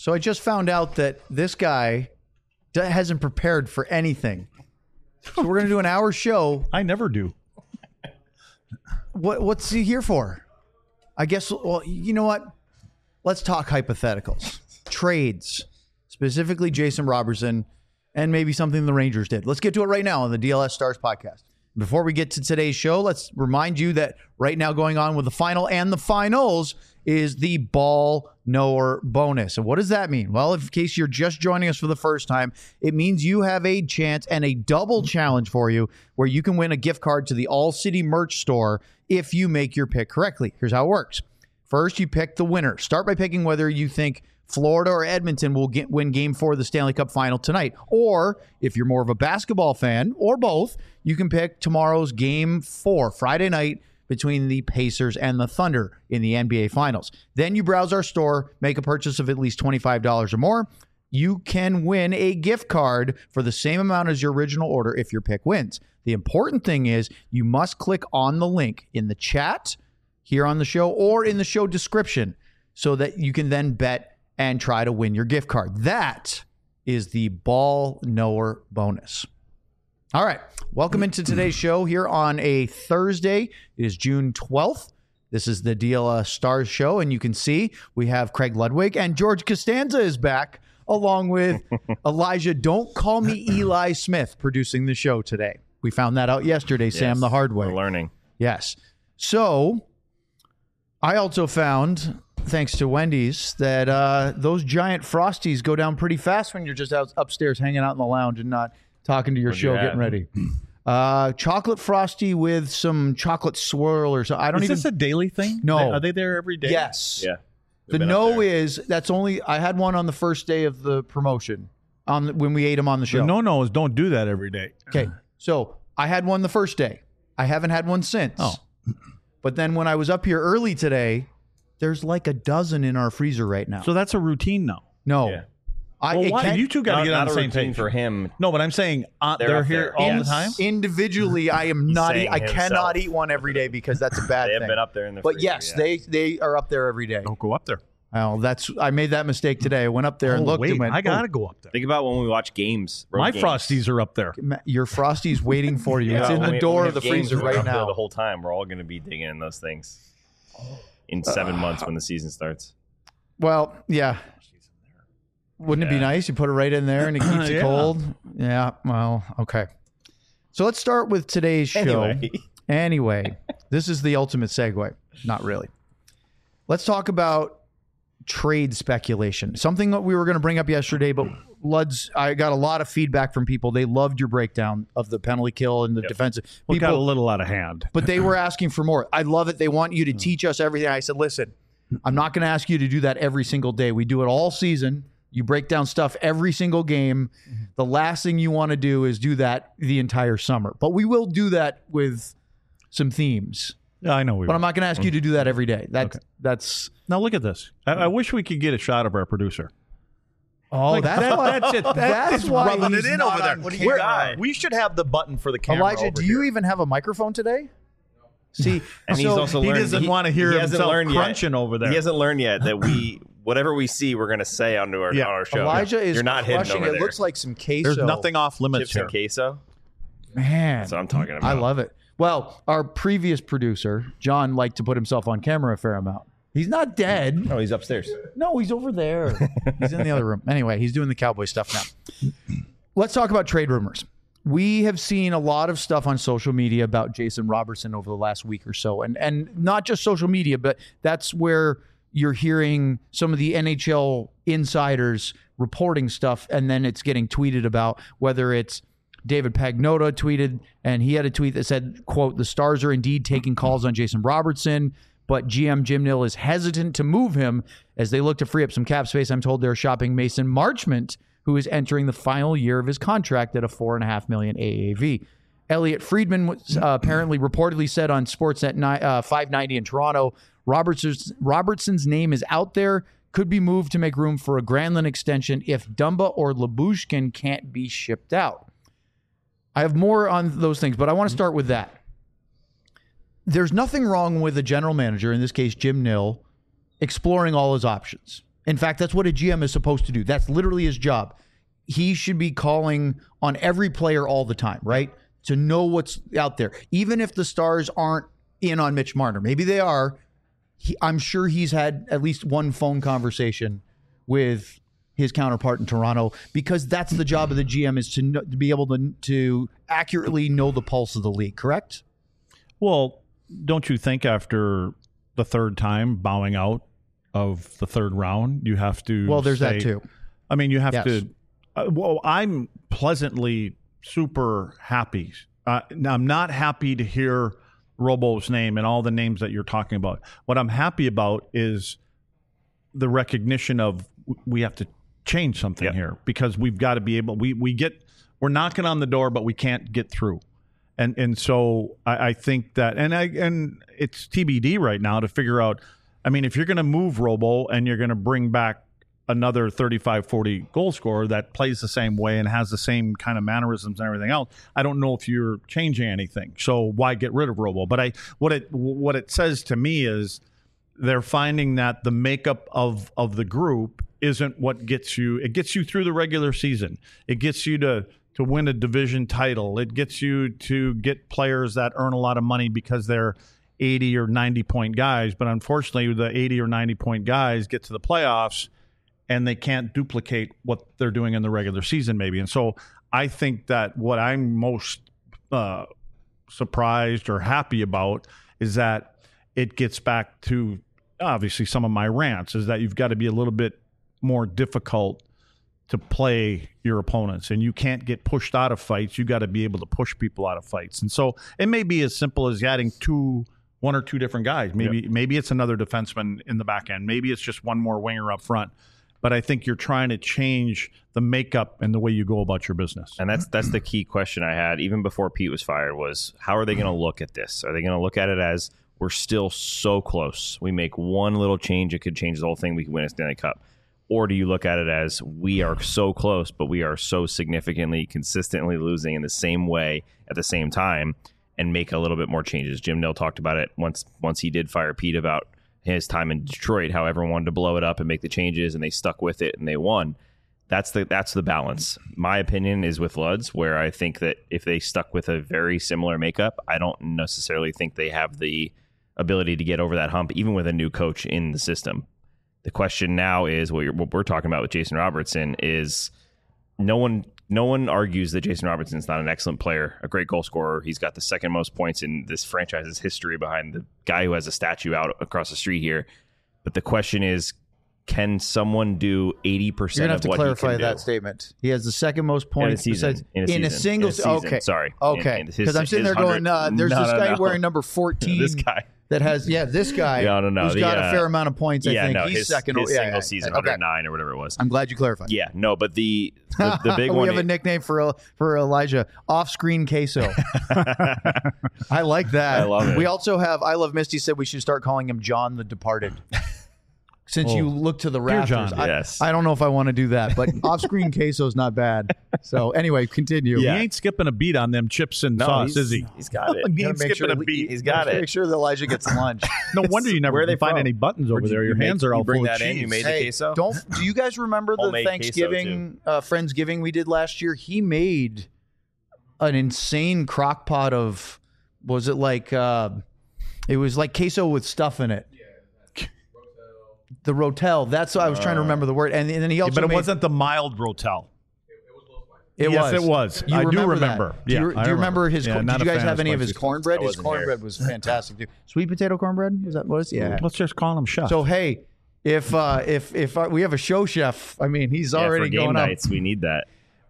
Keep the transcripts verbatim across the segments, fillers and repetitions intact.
So I just found out that this guy d- hasn't prepared for anything. So we're going to do an hour show. I never do. What What's he here for? I guess, well, you know what? Let's talk hypotheticals. Trades, specifically Jason Robertson, and maybe something the Rangers did. Let's get to it right now on the D L S Stars podcast. Before we get to today's show, let's remind you that right now going on with the final and the finals is the ball knower bonus. And what does that mean? Well, in case you're just joining us for the first time, it means you have a chance and a double challenge for you where you can win a gift card to the All City merch store if you make your pick correctly. Here's how it works. First, you pick the winner. Start by picking whether you think Florida or Edmonton will get, win game four of the Stanley Cup final tonight. Or if you're more of a basketball fan, or both, you can pick tomorrow's game four, Friday night, between the Pacers and the Thunder in the N B A Finals. Then you browse our store, make a purchase of at least twenty-five dollars or more. You can win a gift card for the same amount as your original order if your pick wins. The important thing is you must click on the link in the chat here on the show or in the show description so that you can then bet and try to win your gift card. That is the ball knower bonus. All right. Welcome into today's show here on a Thursday. It is June twelfth. This is the D L S Stars show, and you can see we have Craig Ludwig and George Costanza is back, along with Elijah Don't Call Me Eli Smith producing the show today. We found that out yesterday, yes, Sam, the hard way. We're learning. Yes. So I also found, thanks to Wendy's, that uh, those giant Frosties go down pretty fast when you're just out upstairs hanging out in the lounge and not talking to your What'd show, you getting have? ready. Uh, chocolate Frosty with some chocolate swirl or something. I don't Is even. this a daily thing? No. Are they there every day? Yes. Yeah. The no is that's only. I had one on the first day of the promotion on the, when we ate them on the show. The no-no is don't do that every day. Okay, so I had one the first day. I haven't had one since. Oh. But then when I was up here early today, there's like a dozen in our freezer right now. So that's a routine now. no, Yeah. I Well, it why? can't- You two got to Not, get on not the a same routine page. for him. No, but I'm saying uh, They're they're, up here there. all Yes. the time. individually, I am not. saying I himself. cannot eat one every day because that's a bad They have thing. been up there in the But freezer, yes, yeah. they they are up there every day. Don't go up there. Well, that's I made that mistake today. I went up there and Oh, looked wait, and went, I got oh, to go up there. Think about when we watch games. road My games. Frosties are up there. Ma- your Frosty's waiting for you. Yeah, It's in when the we- door when of we the have games, freezer we're right up there now. The whole time, we're all going to be digging in those things in seven months when the season starts. Well, yeah. Wouldn't it be Yeah. nice? You put it right in there and it keeps it Yeah. cold. Yeah. Well, okay. So let's start with today's show. Anyway. Anyway, this is the ultimate segue. Not really. Let's talk about trade speculation. Something that we were going to bring up yesterday, but Luds, I got a lot of feedback from people. They loved your breakdown of the penalty kill and the Yep. defensive. We got a People, little out of hand. but they were asking for more. I love it. They want you to teach us everything. I said, listen, I'm not going to ask you to do that every single day. We do it all season. You break down stuff every single game. The last thing you want to do is do that the entire summer. But we will do that with some themes. Yeah, I know we But will. I'm not going to ask you to do that every day. That's that's Now look at this. I, I wish we could get a shot of our producer. oh, Like, that's that- why that's it. That- that's it's why rubbing he's it in not over there. on What do you camera. got? We should have the button for the camera. Elijah, over do you here. even have a microphone today? See, And he's so- also he learned, doesn't want to hear he hasn't himself learned crunching yet. over there. He hasn't learned yet that we, whatever we see, we're going to say onto our, Yeah. on our show. Elijah is You're not hidden crushing. over It there. looks like some queso. There's nothing off limits Chips here. and queso. Man, That's what I'm talking about. I love it. Well, our previous producer, John, liked to put himself on camera a fair amount. He's not dead. Oh, he's upstairs. No, he's over there. He's in the other room. Anyway, he's doing the cowboy stuff now. Let's talk about trade rumors. We have seen a lot of stuff on social media about Jason Robertson over the last week or so. And and not just social media, but that's where you're hearing some of the N H L insiders reporting stuff, and then it's getting tweeted about, whether it's David Pagnotta tweeted, and he had a tweet that said, quote, "The Stars are indeed taking calls on Jason Robertson, but G M Jim Nill is hesitant to move him as they look to free up some cap space. I'm told they're shopping Mason Marchment, who is entering the final year of his contract at a four and a half million A A V. Elliot Friedman was, uh, apparently reportedly said on Sportsnet ni- uh, five ninety in Toronto, Robertson's, Robertson's name is out there, could be moved to make room for a Granlund extension if Dumba or Lyubushkin can't be shipped out. I have more on those things, but I want to start with that. There's nothing wrong with a general manager, in this case Jim Nill, exploring all his options. In fact, that's what a G M is supposed to do. That's literally his job. He should be calling on every player all the time, right? To know what's out there. Even if the Stars aren't in on Mitch Marner. Maybe they are. He, I'm sure he's had at least one phone conversation with his counterpart in Toronto, because that's the job of the G M, is to, know, to be able to, to accurately know the pulse of the league, correct? Well, don't you think after the third time bowing out of the third round, you have to Well, there's say, that too. I mean, you have Yes. to. Uh, well, I'm pleasantly super happy. Uh, now, I'm not happy to hear Robo's name and all the names that you're talking about. What I'm happy about is the recognition of we have to change something Yep. here, because we've got to be able. We we get we're knocking on the door, but we can't get through. And and so I, I think that, and I and it's T B D right now to figure out. I mean, if you're going to move Robo and you're going to bring back another thirty-five, forty goal scorer that plays the same way and has the same kind of mannerisms and everything else, I don't know if you're changing anything. So why get rid of Robo? But I what it what it says to me is they're finding that the makeup of of the group isn't what gets you. It gets you through the regular season. It gets you to to win a division title. It gets you to get players that earn a lot of money because they're eighty or ninety point guys. But unfortunately, the eighty or ninety point guys get to the playoffs and they can't duplicate what they're doing in the regular season, maybe. And so I think that what I'm most uh, surprised or happy about is that it gets back to obviously some of my rants, is that you've got to be a little bit more difficult to play your opponents, and you can't get pushed out of fights. You got to be able to push people out of fights. And so it may be as simple as adding two, one or two different guys. Maybe yep. maybe it's another defenseman in the back end. Maybe it's just one more winger up front. But I think you're trying to change the makeup and the way you go about your business. And that's that's the key question I had even before Pete was fired, was how are they going to look at this? Are they going to look at it as we're still so close? We make one little change, it could change the whole thing. We can win a Stanley Cup. Or do you look at it as we are so close, but we are so significantly, consistently losing in the same way at the same time, and make a little bit more changes? Jim Nill talked about it once once he did fire Pete about his time in Detroit, how everyone wanted to blow it up and make the changes, and they stuck with it and they won. That's the that's the balance. My opinion is with Luds, where I think that if they stuck with a very similar makeup, I don't necessarily think they have the ability to get over that hump, even with a new coach in the system. The question now is what, you're, what we're talking about with Jason Robertson is no one no one argues that Jason Robertson's not an excellent player, a great goal scorer. He's got the second most points in this franchise's history behind the guy who has a statue out across the street here. But the question is, can someone do eighty percent of what he can do? You're going to have to clarify that statement. He has the second most points in a season. In a, in a season. single in a season. Okay. Sorry. Okay. Because I'm sitting there going, uh, there's no, this no, guy no. wearing number fourteen. This guy. That has, yeah, this guy no, no, no. who's the, got uh, a fair amount of points, I yeah, think. No, He's his, second. His yeah, single yeah, season, yeah. Okay. one hundred nine or whatever it was. I'm glad you clarified. Yeah, no, but the the, the big we one... We have a nickname for for Elijah, Off-Screen Queso. I like that. I love it. We also have, I Love Misty said we should start calling him John the Departed. Since oh. you look to the Dear rafters, John. I, Yes. I don't know if I want to do that, but off-screen queso is not bad. So anyway, continue. He ain't skipping a beat on them chips and No, sauce, he's- is he? He's got it. He Gotta ain't make skipping sure- a beat. He's got Make it. sure that Elijah gets lunch. No wonder you never Where are they find from? any buttons over Where'd there. you Your make- hands are you all bring full that of in? You cheese. made the Hey, queso? don't do you guys remember the Homemade queso, Thanksgiving uh, Friendsgiving we did last year? He made an insane crock pot of, was it like uh, it was like queso with stuff in it. The Rotel. That's what I was trying to remember the word. And, and then he also But it made, wasn't the mild Rotel. It yes, was. it was. You I do remember. remember. That. Do Yeah, you, I do you remember remember. his? Yeah, corn- not did you a guys fan have of any of his spicy cornbread? I His wasn't here. cornbread was fantastic too. Sweet potato cornbread. Was that what it was? Yeah. Let's just call him chef. So hey, if uh, if if uh, we have a show chef, I mean he's Yeah, already for game going up nights, we need that.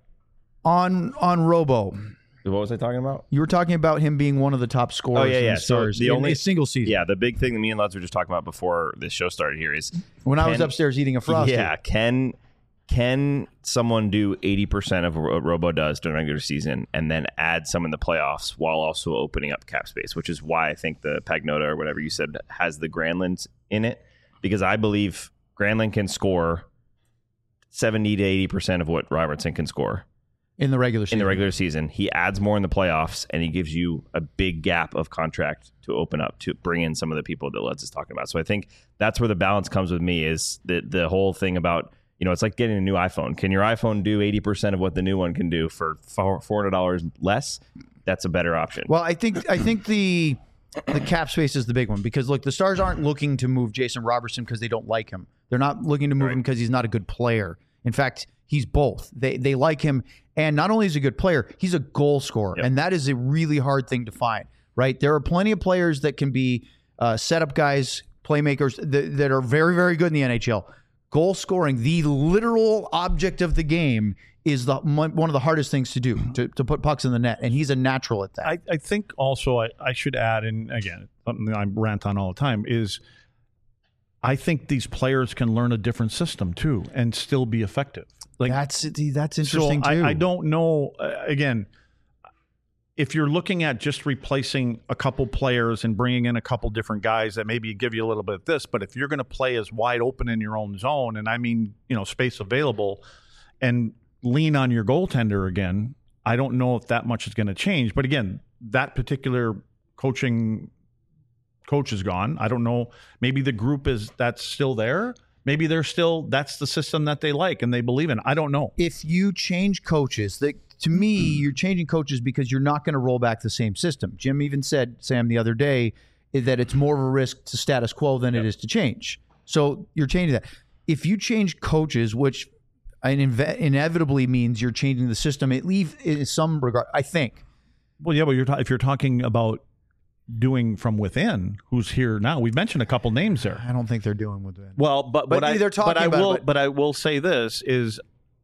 on on Robo. What was I talking about? You were talking about him being one of the top scorers. Oh, yeah, in yeah. the So Stars the in only- a single season. Yeah, the big thing that me and Luds were just talking about before this show started here is When I was Can- upstairs eating a Frosty. yeah, can can someone do eighty percent of what Robo does during the regular season and then add some in the playoffs while also opening up cap space, which is why I think the Pagnota or whatever you said has the Granlunds in it, because I believe Granlund can score seventy to eighty percent of what Robertson can score. in the regular season. In the regular season, he adds more in the playoffs, and he gives you a big gap of contract to open up to bring in some of the people that Lutz is talking about. So I think that's where the balance comes with me, is the the whole thing about, you know, it's like getting a new iPhone. Can your iPhone do eighty percent of what the new one can do for four hundred dollars less? That's a better option. Well, I think I think the the cap space is the big one, because look, the Stars aren't looking to move Jason Robertson because they don't like him. They're not looking to move Right. him because he's not a good player. In fact, he's both. They they like him, and not only is he a good player, he's a goal scorer, Yep. and that is a really hard thing to find. Right? There are plenty of players that can be uh, setup guys, playmakers that, that are very very good in the N H L. Goal scoring, the literal object of the game, is the one of the hardest things to do, to, to put pucks in the net, and he's a natural at that. I, I think also I, I should add, and again, something I rant on all the time, is I think these players can learn a different system too and still be effective. Like that's that's interesting so too. I, I don't know. Uh, again, if you're looking at just replacing a couple players and bringing in a couple different guys that maybe give you a little bit of this, but if you're going to play as wide open in your own zone, and I mean, you know, space available, and lean on your goaltender again, I don't know if that much is going to change. But again, that particular coaching coach is gone. I don't know. Maybe the group is that's still there. Maybe they're still, that's the system that they like and they believe in. I don't know. If you change coaches, that to me, you're changing coaches because you're not going to roll back the same system. Jim even said, Sam, the other day, that it's more of a risk to status quo than Yep. it is to change. So you're changing that. If you change coaches, which inve- inevitably means you're changing the system, at least in some regard, I think. Well, yeah, but you're ta- if you're talking about doing from within, who's here now? We've mentioned a couple names there. I don't think they're doing with that. Well, but But what I, they're talking but I about it, will, but- but I will say this is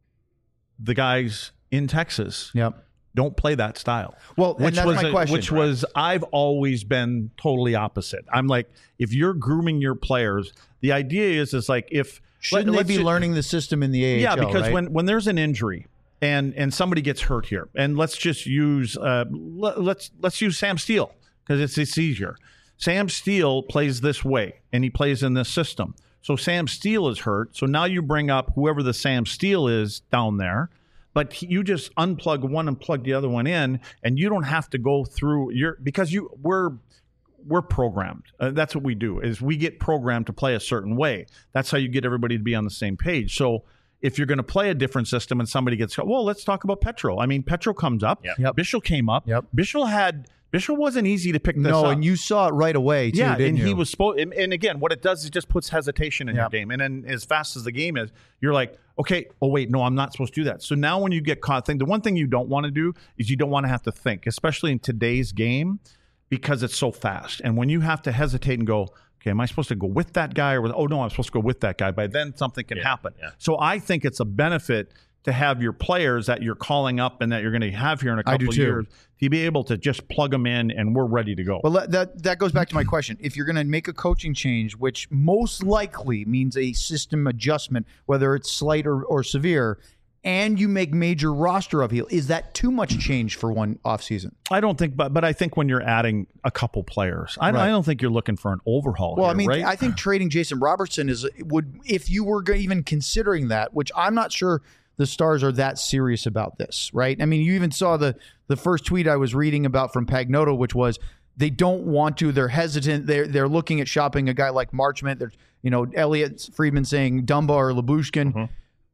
the guys in Texas Yep. don't play that style. Well, and which that's was my a- question. Which was I've always been totally opposite. I'm like, if you're grooming your players, the idea is is like if Shouldn't let- they let's be ju- learning the system in the A H L? Yeah, because right? when when there's an injury and and somebody gets hurt here, and let's just use uh, let, let's let's use Sam Steele because it's it's easier. Sam Steele plays this way, and he plays in this system. So Sam Steele is hurt. So now you bring up whoever the Sam Steele is down there, but he- you just unplug one and plug the other one in, and you don't have to go through your because you we're we're programmed. Uh, that's what we do is we get programmed to play a certain way. That's how you get everybody to be on the same page. So if you're going to play a different system and somebody gets, well, let's talk about Petro. I mean, Petro comes up. Yep. Yep. Bischel came up. Yep. Bischel had Bischel wasn't easy to pick this no, up. and you saw it right away, too, yeah, didn't and you? he was supposed. And, and again, what it does is it just puts hesitation in your Yep. game. And then as fast as the game is, you're like, okay, oh wait, no, I'm not supposed to do that. So now when you get caught, think the one thing you don't want to do is you don't want to have to think, especially in today's game, because it's so fast. And when you have to hesitate and go, okay, am I supposed to go with that guy or with, oh no, I'm supposed to go with that guy? By then something can Yeah, happen. yeah. So I think it's a benefit to have your players that you're calling up and that you're going to have here in a I do couple of too. years to be able to just plug them in and we're ready to go. Well, that- that that goes back to my question. If you're going to make a coaching change, which most likely means a system adjustment, whether it's slight or, or severe, and you make major roster upheaval, is that too much change for one offseason? I don't think, but but I think when you're adding a couple players, I, Right. I don't think you're looking for an overhaul. Well, here, I mean, right? I think trading Jason Robertson is would if you were go- even considering that, which I'm not sure the Stars are that serious about this, right? I mean, you even saw the the first tweet I was reading about from Pagnotta, which was they don't want to, they're hesitant, they're they're looking at shopping a guy like Marchment. There's you know Elliot Friedman saying Dumba or Lyubushkin. Mm-hmm.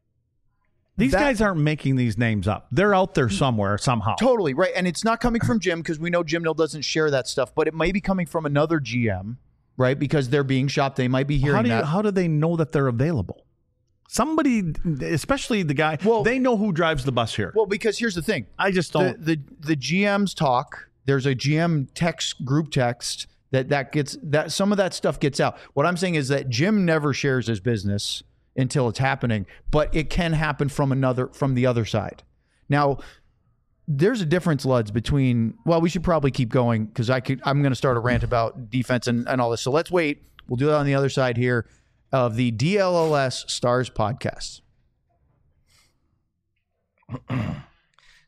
These that- guys aren't making these names up. They're out there somewhere somehow. Totally right, and it's not coming from Jim because we know Jim Nill doesn't share that stuff, but it may be coming from another G M, right? Because they're being shopped, they might be hearing How do you, that. how do they know that they're available? Somebody, especially the guy, Well- they know who drives the bus here. Well, because here's the thing. I just The, don't. the the G Ms talk. There's a G M text group text that that gets that some of that stuff gets out. What I'm saying is that Jim never shares his business until it's happening, but it can happen from another from the other side. Now, there's a difference, Luds, between well, we should probably keep going because I could I'm going to start a rant about defense and, and all this. So let's wait. We'll do that on the other side here of the D L L S Stars podcast.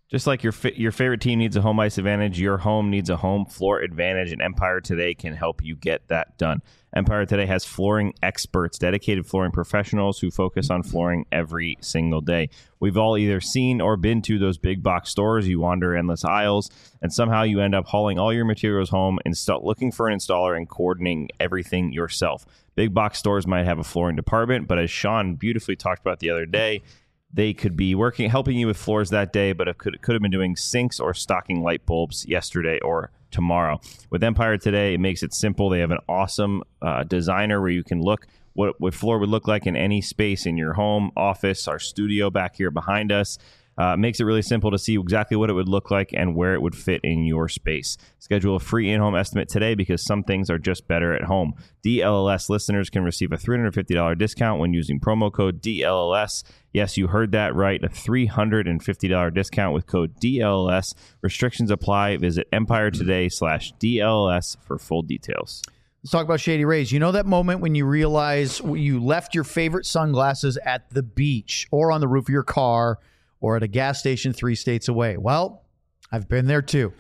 Just like your fi- your favorite team needs a home ice advantage, your home needs a home floor advantage, and Empire Today can help you get that done. Empire Today has flooring experts, dedicated flooring professionals who focus on flooring every single day. We've all either seen or been to those big box stores. You wander endless aisles, and somehow you end up hauling all your materials home and start looking for an installer and coordinating everything yourself. Big box stores might have a flooring department, but as Sean beautifully talked about the other day, they could be working, helping you with floors that day, but it could, could have been doing sinks or stocking light bulbs yesterday or tomorrow. With Empire Today, it makes it simple. They have an awesome uh, designer where you can look what what floor would look like in any space in your home, office, our studio back here behind us. Uh, makes it really simple to see exactly what it would look like and where it would fit in your space. Schedule a free in-home estimate today because some things are just better at home. D L L S listeners can receive a three hundred fifty dollars discount when using promo code D L L S. Yes, you heard that right. A three hundred fifty dollars discount with code D L L S. Restrictions apply. Visit Empire Today slash D L L S for full details. Let's talk about Shady Rays. You know that moment when you realize you left your favorite sunglasses at the beach or on the roof of your car or at a gas station three states away? Well, I've been there too.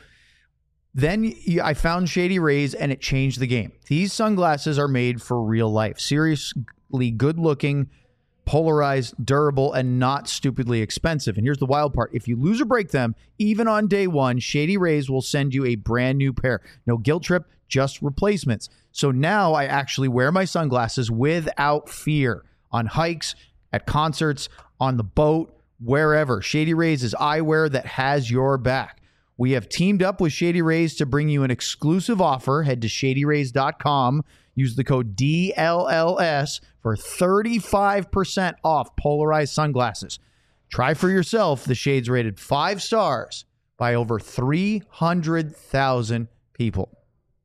Then I found Shady Rays and it changed the game. These sunglasses are made for real life. Seriously good looking, polarized, durable, and not stupidly expensive. And here's the wild part. If you lose or break them, even on day one, Shady Rays will send you a brand new pair. No guilt trip, just replacements. So now I actually wear my sunglasses without fear on hikes, at concerts, on the boat, wherever. Shady Rays is eyewear that has your back. We have teamed up with Shady Rays to bring you an exclusive offer. Head to shady rays dot com. Use the code D L L S for thirty-five percent off polarized sunglasses. Try for yourself the shades rated five stars by over three hundred thousand people.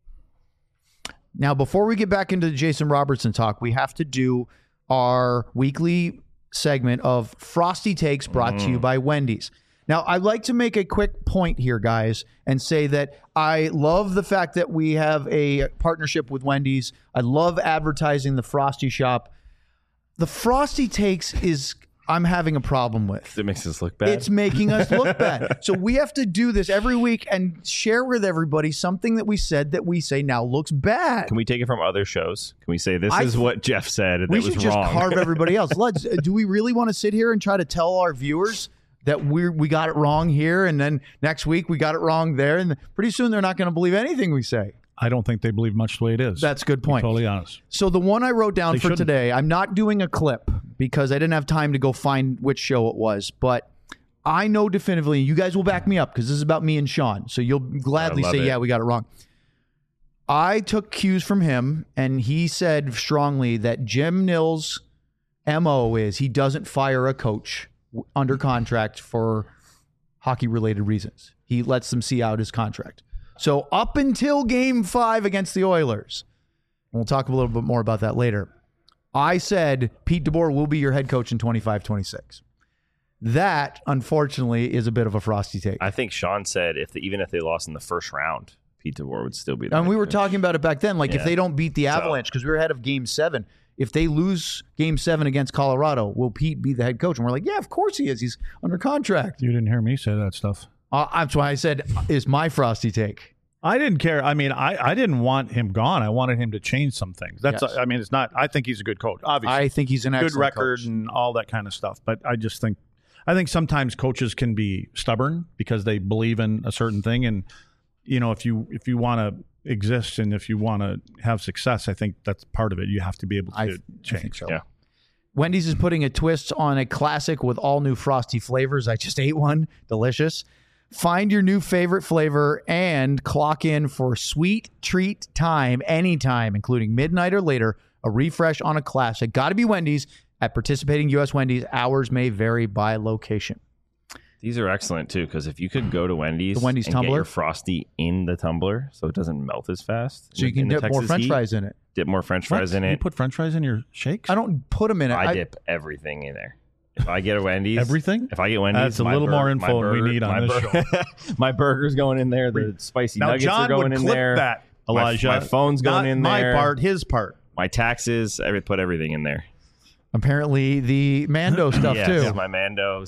Now, before we get back into the Jason Robertson talk, we have to do our weekly segment of Frosty Takes brought mm. to you by Wendy's. Now, I'd like to make a quick point here, guys, and say that I love the fact that we have a partnership with Wendy's. I love advertising the Frosty Shop. The Frosty Takes is I'm having a problem with. It makes us look bad. It's making us look bad. So we have to do this every week and share with everybody something that we said that we say now looks bad. Can we take it from other shows? Can we say this I, is what Jeff said and we that was should just wrong? carve everybody else. Let's. Do we really want to sit here and try to tell our viewers that we we got it wrong here, and then next week we got it wrong there, and pretty soon they're not going to believe anything we say? I don't think they believe much the way it is. That's a good point. To be totally honest. So the one I wrote down They for shouldn't. today, I'm not doing a clip because I didn't have time to go find which show it was, but I know definitively, you guys will back me up because this is about me and Sean, so you'll gladly I love say, it. yeah, we got it wrong. I took cues from him, and he said strongly that Jim Nill's M O is he doesn't fire a coach w- under contract for hockey-related reasons. He lets them see out his contract. So up until game five against the Oilers, and we'll talk a little bit more about that later, I said Pete DeBoer will be your head coach in twenty-five twenty-six. That, unfortunately, is a bit of a Frosty take. I think Sean said if the, even if they lost in the first round, Pete DeBoer would still be there. And we were talking about it back then. Like, Yeah. if they don't beat the Avalanche, because we were ahead of game seven, if they lose game seven against Colorado, will Pete be the head coach? And we're like, yeah, of course he is. He's under contract. You didn't hear me say that stuff. Uh, that's why I said, is my Frosty take. I didn't care. I mean, I, I didn't want him gone. I wanted him to change some things. That's. Yes. I mean, it's not. I think he's a good coach. Obviously, I think he's an good excellent record coach. and all that kind of stuff. But I just think, I think sometimes coaches can be stubborn because they believe in a certain thing, and you know, if you if you want to exist and if you want to have success, I think that's part of it. You have to be able to I, I change. think so. Yeah. Wendy's is putting a twist on a classic with all new Frosty flavors. I just ate one. Delicious. Find your new favorite flavor and clock in for sweet treat time anytime, including midnight or later, a refresh on a classic. Got to be Wendy's. At participating U S Wendy's, hours may vary by location. These are excellent too, because if you could go to Wendy's, The Wendy's and tumbler? get your Frosty in the tumbler so it doesn't melt as fast. So you in- can in the dip more Texas French heat, fries in it. Dip more French fries What? in You it. put French fries in your shakes? I don't put them in it. I, I, dip everything in there. If I get a Wendy's, Everything? If I get Wendy's, That's a my little bur- more my info than we burger- need on my this bur- my burger's going in there. The spicy Now, nuggets John are going would in clip there. that, My- Elijah. My, phone's going Not in my there. part, his part. My taxes. I would put everything in there. apparently the Mando stuff yes, too. my Mandos.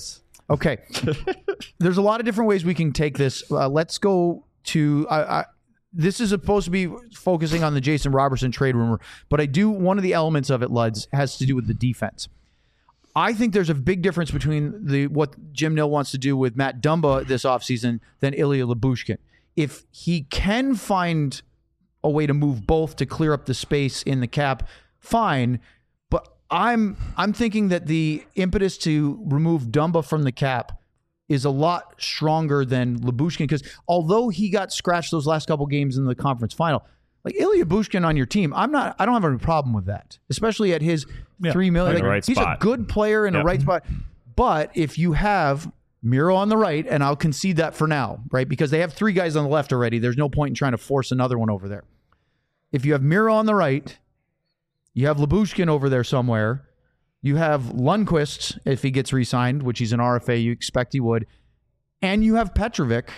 Okay. There's a lot of different ways we can take this. Uh, let's go to. Uh, I, this is supposed to be focusing on the Jason Robertson trade rumor, but I do. One of the elements of it, Luds, has to do with the defense. I think there's a big difference between the what Jim Nill wants to do with Matt Dumba this offseason than Ilya Lyubushkin. If he can find a way to move both to clear up the space in the cap, fine. But I'm I'm thinking that the impetus to remove Dumba from the cap is a lot stronger than Lyubushkin, because although he got scratched those last couple games in the conference final, like Ilya Lyubushkin on your team, I'm not. I don't have any problem with that, especially at his Yeah, three million. in the Like, right he's spot. a good player in Yep. a right spot. But if you have Miro on the right, and I'll concede that for now, right? Because they have three guys on the left already. There's no point in trying to force another one over there. If you have Miro on the right, you have Lyubushkin over there somewhere. You have Lundqvist, if he gets re-signed, which he's an R F A, you expect he would. And you have Petrovic.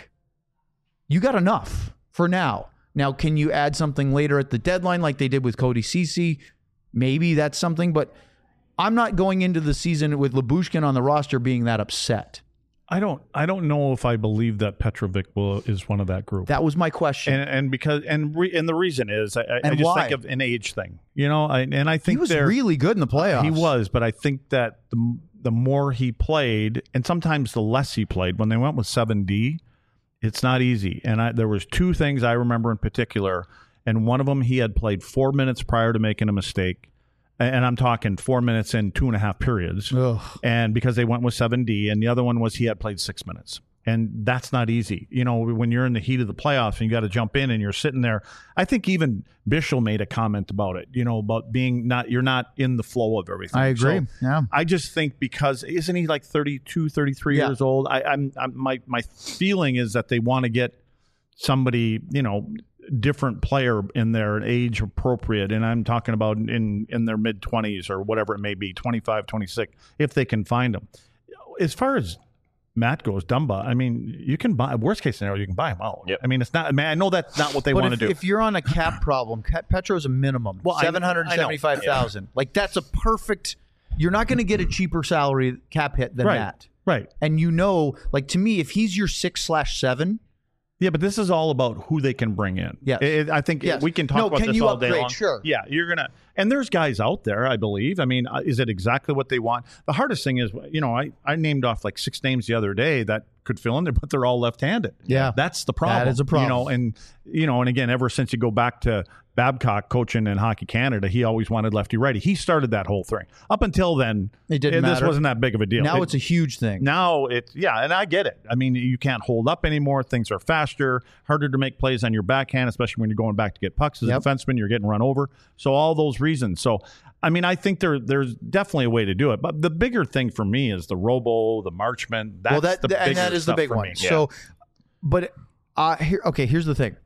You got enough for now. Now, can you add something later at the deadline like they did with Cody Ceci? Maybe that's something, but I'm not going into the season with Lyubushkin on the roster being that upset. I don't. I don't know if I believe that Petrovic will is one of that group. That was my question. and and because and re, and the reason is I, I And just why? think of an age thing. You know, I, and I think he was they're- really good in the playoffs. He was, but I think that the the more he played, and sometimes the less he played, when they went with seven D, it's not easy. And I, there was two things I remember in particular, and one of them he had played four minutes prior to making a mistake, and I'm talking four minutes in two and a half periods, Ugh. and because they went with seven D, and the other one was he had played six minutes. And that's not easy. You know, when you're in the heat of the playoffs and you got to jump in and you're sitting there. I think even Bischel made a comment about it, you know, about being not, you're not in the flow of everything. I agree. So Yeah. I just think because, isn't he like thirty-two, thirty-three Yeah. years old? I, I'm, I'm, my, my feeling is that they want to get somebody, you know, different player in their age appropriate. And I'm talking about in, in their mid twenties or whatever it may be, twenty-five, twenty-six, if they can find them. As far as Matt goes, Dumba, I mean, you can buy, worst case scenario, you can buy him out. Yep. I mean, it's not, I mean, I know that's not what they But want if, to do. if you're on a cap problem, Cap- Petro's a minimum. Well, I- seven hundred seventy-five thousand dollars. Like, that's a perfect, you're not going to get a cheaper salary cap hit than right. that. Right. And you know, like, to me, if he's your six slash seven, Yeah, but this is all about who they can bring in. Yes. It- I think Yes. we can talk No, about can this you all day upgrade? long. Sure. Yeah, you're gonna, and there's guys out there, I believe. I mean, uh, is it exactly what they want? The hardest thing is, you know, I I named off like six names the other day that could fill in there, but they're all left-handed. Yeah. that's the problem. That is a problem. You know, and you know, and again, ever since you go back to Babcock coaching in Hockey Canada, he always wanted lefty-righty. He started that whole thing. Up until then, It didn't This matter. wasn't that big of a deal. now It- it's a huge thing. now it's, yeah, and I get it. I mean, you can't hold up anymore. Things are faster, harder to make plays on your backhand, especially when you're going back to get pucks as Yep. a defenseman. You're getting run over. So all those reasons. So, I mean, I think there there's definitely a way to do it. But the bigger thing for me is the Robo, the Marchment. That's well, that, the and bigger that is the stuff big for one. me. So, but uh, here, okay, here's the thing.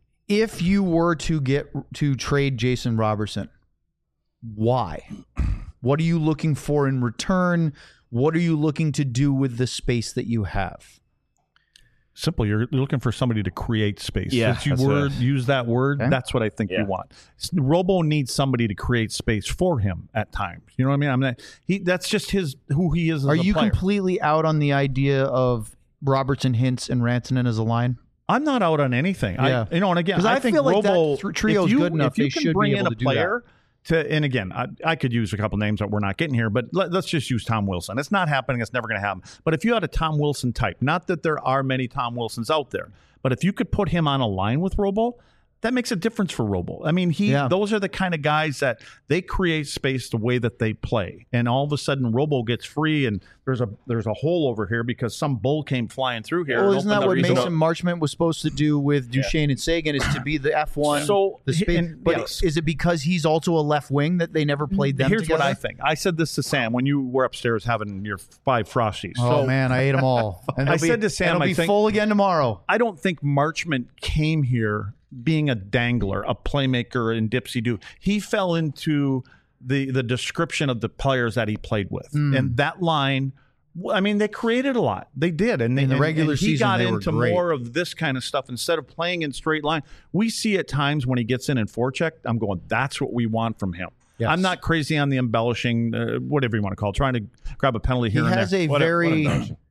If you were to get to trade Jason Robertson, why? What are you looking for in return? What are you looking to do with the space that you have? Simple. You're, you're looking for somebody to create space. Yeah, Since you that's word, a- use that word, Okay. that's what I think Yeah. you want. S- Robo needs somebody to create space for him at times. You know what I mean? I'm not. He. That's just his who he is. As Are a you player. completely out on the idea of Robertson, Hintz, and Rantanen as a line? I'm not out on anything. Yeah. I, you know, and again, 'Cause I think feel like that Robo thr- trio's if you, good enough, If you they can should be bring in able a to do player to, and again, I, I could use a couple names that we're not getting here, but let, let's just use Tom Wilson. It's not happening. It's never going to happen. But if you had a Tom Wilson type, not that there are many Tom Wilsons out there, but if you could put him on a line with Robo, that makes a difference for Robo. I mean, he Yeah. those are the kind of guys that they create space the way that they play, and all of a sudden Robo gets free, and there's a there's a hole over here because some bull came flying through here. Well, and isn't opened that the what reason- Mason Marchment was supposed to do with Duchesne and Sagan? Is to be the F one. So, the space. and- But yes. is it because he's also a left wing that they never played them Here's together? what I think. I said this to Sam when you were upstairs having your five Frosties. Oh so man, I ate them all. And I they'll be- said to Sam, and it'll I be think- full again tomorrow. I don't think Marchment came here being a dangler, a playmaker in Dipsy Doo. He fell into the the description of the players that he played with, Mm. and that line. I mean, they created a lot. They did, and they, In the and- regular and he season, got they were into great. more of this kind of stuff instead of playing in straight line. We see at times when he gets in and forecheck, I'm going, that's what we want from him. Yes. I'm not crazy on the embellishing, uh, whatever you want to call it, trying to grab a penalty He here and has there. a What a- what very embellishing.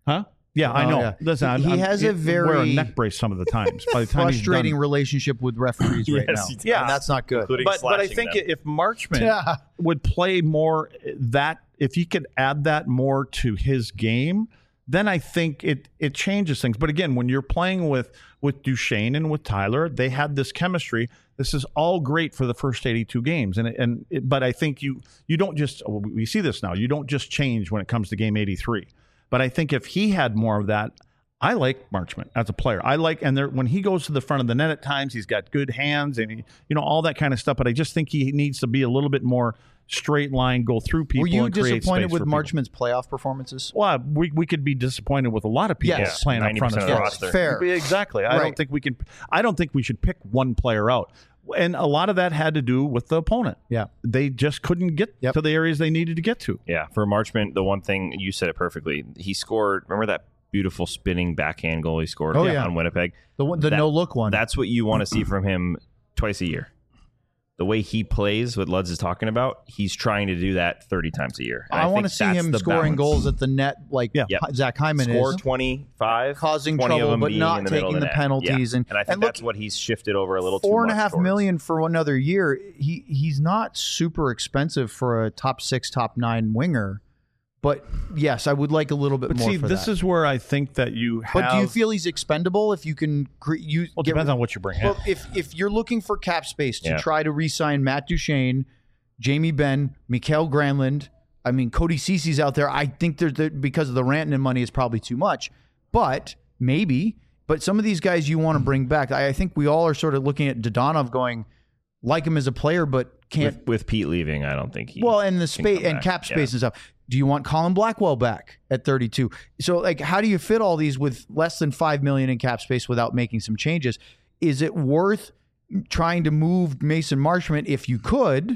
Huh? Yeah, I Oh, know. yeah. Listen, I'm, He I'm, has a it- wear a very neck brace some of the times. By the time he's frustrating done. relationship with referees right Yes, now. he does. Yeah, and that's not good. Including But but I slashing think them. if Marchman Yeah. would play more that, if he could add that more to his game, then I think it it changes things. But again, when you're playing with with Duchesne and with Tyler, they had this chemistry. This is all great for the first eighty-two games, and and it, but I think you you don't just we see this now. You don't just change when it comes to game eighty-three. But I think if he had more of that. I like Marchman as a player. I like, and there, when he goes to the front of the net at times, he's got good hands and he, you know, all that kind of stuff. But I just think he needs to be a little bit more straight line, go through people. Were you and create disappointed space with for people. Marchman's playoff performances? Well, we we could be disappointed with a lot of people Yes. playing up front. ninety percent as of the well. roster. Fair. Exactly. I Right. don't think we can. I don't think we should pick one player out. And a lot of that had to do with the opponent. Yeah. They just couldn't get Yep. to the areas they needed to get to. Yeah, for Marchman, the one thing you said it perfectly. He scored. Remember that beautiful spinning backhand goal he scored Oh, on yeah. Winnipeg? The one, the That- no look one. That's what you want to see from him twice a year. The way he plays, what Luds is talking about, he's trying to do that thirty times a year. And I, want to think see that's him the scoring balance. goals at the net like Yeah. Yep. Zach Hyman Score is. twenty-five, Causing twenty of trouble, them but being not in the middle taking of the net. penalties. Yeah. And- And I think and look, that's what he's shifted over a little too Four and a much half towards. million for another year. He he's not super expensive for a top six, top nine winger. But yes, I would like a little bit But more see, for this that. is where I think that you have. But do you feel he's expendable if you can cre- use? Well, it depends on what you bring in. Well, if if you're looking for cap space to Yeah. try to re-sign Matt Duchesne, Jamie Benn, Mikael Granlund, I mean Cody Cece's out there. I think there's the, because of the Rantanen money is probably too much, but maybe. But some of these guys you want to bring back. I, I think we all are sort of looking at Dodonov going, like him as a player, but can't. With, with Pete leaving, I don't think he. Well, and the can space come and back. cap Yeah. space and stuff. Do you want Colin Blackwell back at thirty-two? So, like, how do you fit all these with less than five million in cap space without making some changes? Is it worth trying to move Mason Marchment if you could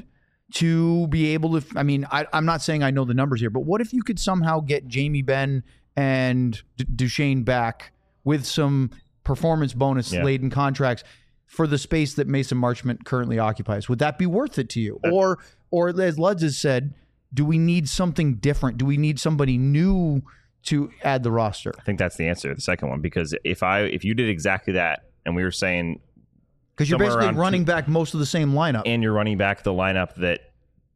to be able to? I mean, I, I'm not saying I know the numbers here, but what if you could somehow get Jamie Benn and D- Duchesne back with some performance bonus Yeah. laden contracts for the space that Mason Marchment currently occupies? Would that be worth it to you? Or, or as Luds has said, do we need something different? Do we need somebody new to add the roster? I think that's the answer, the second one, because if I if you did exactly that, and we were saying, Because you're somewhere basically around running two- back most of the same lineup. and you're running back the lineup that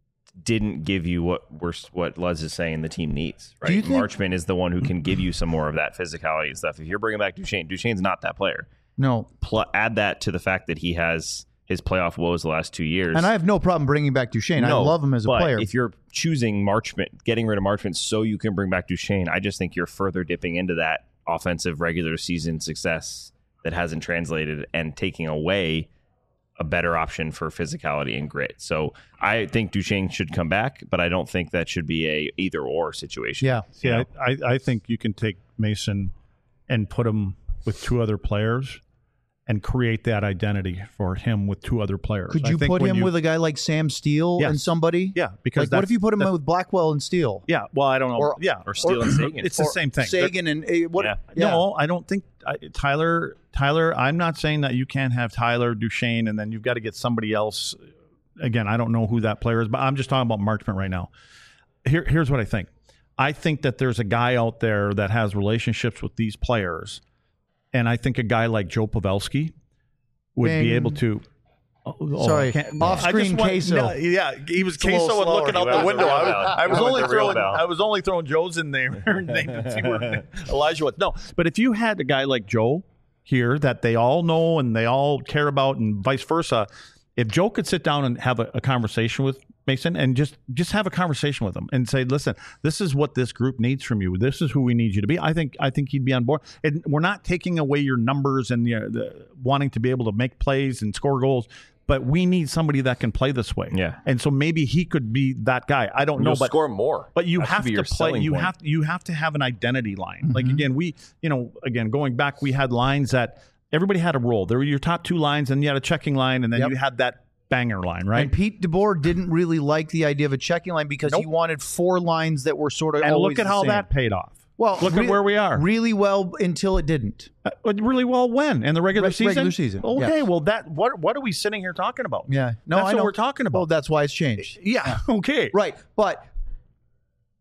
didn't give you what we're what Luz is saying the team needs, right? Do you think- Marchman is the one who can give you some more of that physicality and stuff. If you're bringing back Duchesne, Duchesne's not that player. no. Pl- add that to the fact that he has his playoff woes the last two years. And I have no problem bringing back Duchesne. No, I love him as a but player. If you're choosing Marchman, getting rid of Marchman so you can bring back Duchesne, I just think you're further dipping into that offensive regular season success that hasn't translated and taking away a better option for physicality and grit. So I think Duchesne should come back, but I don't think that should be a either or situation. yeah. You Yeah, know? I, I think you can take Mason and put him with two other players and create that identity for him with two other players. Could I you think put when him you- with a guy like Sam Steele Yes. and somebody? Yeah, because Like, what that's- if you put him that- with Blackwell and Steele? Yeah, well, I don't know. Or- yeah, Or Steele and Sagan. It's the Or same thing. Sagan and uh, what? Yeah. Yeah. No, I don't think I, Tyler. Tyler, I'm not saying that you can't have Tyler Duchesne and then you've got to get somebody else. Again, I don't know who that player is, but I'm just talking about Marchment right now. Here, here's what I think. I think that there's a guy out there that has relationships with these players, and I think a guy like Joe Pavelski would Bing. be able to. Oh, oh, Sorry, I can't- off-screen I just want- queso. no, yeah, he was a little queso and slower. looking He out went the with the window. real I, bell. I was He went only with the real throwing. bell. I was only throwing Joe's in there to see where Elijah was. No, but if you had a guy like Joe here that they all know and they all care about, and vice versa, if Joe could sit down and have a, a conversation with Mason and just just have a conversation with him and say, listen, this is what this group needs from you. This is who we need you to be. I think I think he'd be on board. And we're not taking away your numbers and the, the wanting to be able to make plays and score goals, but we need somebody that can play this way. Yeah. And so maybe he could be that guy. I don't know, You'll but score more. but you That should have be to your play. selling You point. have you have to have an identity line. Like again, we you know again going back, we had lines that everybody had a role. There were your top two lines, and you had a checking line, and then Yep. you had that banger line, right? And Pete DeBoer didn't really like the idea of a checking line because he Nope. wanted four lines that were sort of And always look at the how same. that paid off. Well, look re- at where we are. Really well until it didn't. Uh, really well when in the regular Reg- season. regular season, Okay, yeah. well that what what are we sitting here talking about? Yeah. No, That's I what know. we're talking about. Well, that's why it's changed. Yeah. Okay. Right. But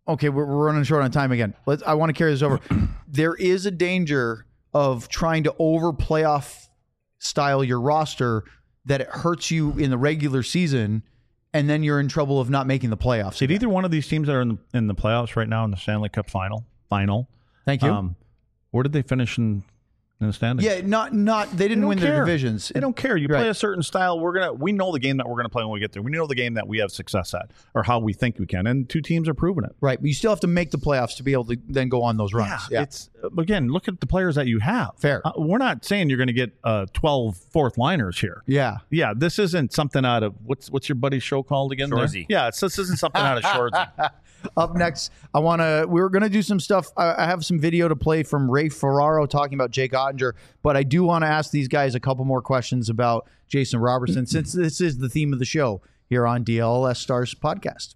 okay, we're, we're running short on time again. Let's. I want to carry this over. There is a danger of trying to over playoff style your roster that it hurts you in the regular season, and then you're in trouble of not making the playoffs. Did either one of these teams that are in the, in the playoffs right now in the Stanley Cup final? Final. Thank you. Um, where did they finish in, in the standings? Yeah, not not they didn't They win don't their care. divisions. They don't care. You Right. play a certain style. We're gonna. We know the game that we're gonna play when we get there. We know the game that we have success at, or how we think we can. And two teams are proving it. Right, but you still have to make the playoffs to be able to then go on those runs. Yeah, It's again. Look at the players that you have. Fair. Uh, we're not saying you're going to get uh, twelve fourth liners here. yeah. Yeah, this isn't something out of what's what's your buddy's show called again? there? Shoresy. Yeah, it's, this isn't something out of Shoresy. Up next, I want to. We were going to do some stuff. I, I have some video to play from Ray Ferraro talking about Jake Ottinger, but I do want to ask these guys a couple more questions about Jason Robertson, since this is the theme of the show here on D L L S Stars podcast.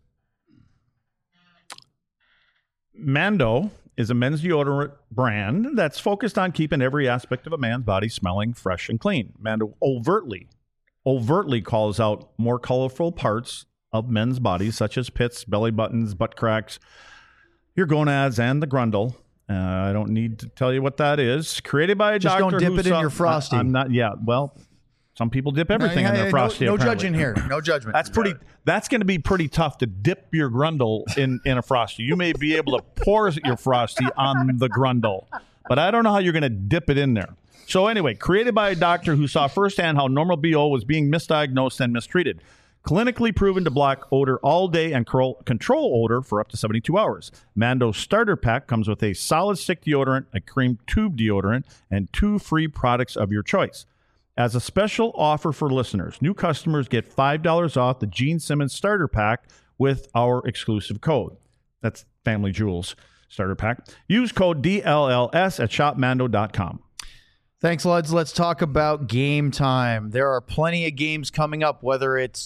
Mando is a men's deodorant brand that's focused on keeping every aspect of a man's body smelling fresh and clean. Mando overtly, overtly calls out more colorful parts of men's bodies, such as pits, belly buttons, butt cracks, your gonads, and the grundle. Uh, I don't need to tell you what that is. Created by a Just doctor don't dip who it in saw- your Frosty. I, am not. Yeah. Well, some people dip everything No, in yeah, their yeah, Frosty. No, no apparently. judging here. No judgment. That's pretty. That's going to be pretty tough to dip your grundle in, in a Frosty. You may be able to pour your Frosty on the grundle, but I don't know how you're going to dip it in there. So anyway, created by a doctor who saw firsthand how normal B O was being misdiagnosed and mistreated. Clinically proven to block odor all day and cro- control odor for up to seventy-two hours. Mando's starter pack comes with a solid stick deodorant, a cream tube deodorant, and two free products of your choice. As a special offer for listeners, new customers get five dollars off the Gene Simmons starter pack with our exclusive code. That's Family Jewels starter pack. Use code D L L S at shop mando dot com. Thanks, Luds. Let's talk about game time. There are plenty of games coming up, whether it's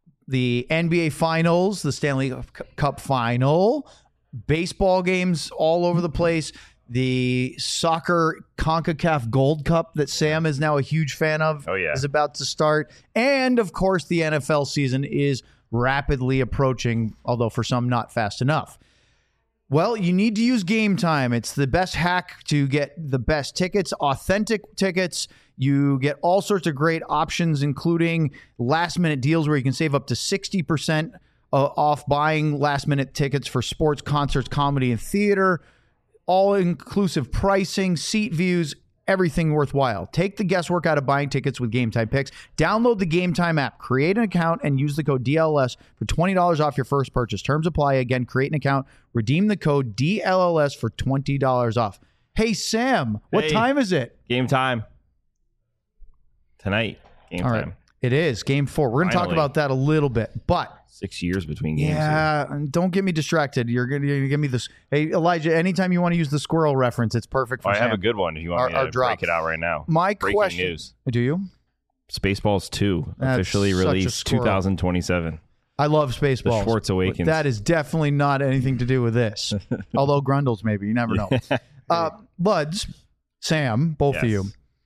the N B A Finals, the Stanley Cup Final, baseball games all over the place, the soccer CONCACAF Gold Cup that Sam is now a huge fan of Oh, yeah. is about to start. And, of course, the N F L season is rapidly approaching, although for some not fast enough. Well, you need to use Game Time. It's the best hack to get the best tickets, authentic tickets. You get all sorts of great options, including last-minute deals where you can save up to sixty percent uh, off buying last-minute tickets for sports, concerts, comedy, and theater. All-inclusive pricing, seat views, everything worthwhile. Take the guesswork out of buying tickets with Game Time Picks. Download the Game Time app, create an account, and use the code D L L S for twenty dollars off your first purchase. Terms apply. Again, create an account, redeem the code D L L S for twenty dollars off. Hey, Sam, what Hey. time is it? Game time. Tonight. Game All time. right. It is game four. We're going to talk Finally. about that a little bit, but Six years between games. here. yeah, and don't get me distracted. You're going to give me this. Hey, Elijah, anytime you want to use the squirrel reference, it's perfect for Oh, I have Sam. a good one if you want Our- me our to drop. break it out right now. My Breaking question. news. Do you? Spaceballs two That's officially such a released squirrel. twenty twenty-seven. I love Spaceballs. The Schwartz but Awakens. That is definitely not anything to do with this. Although Grundles, maybe. You never know. uh, Buds, Sam, both of Yes. you.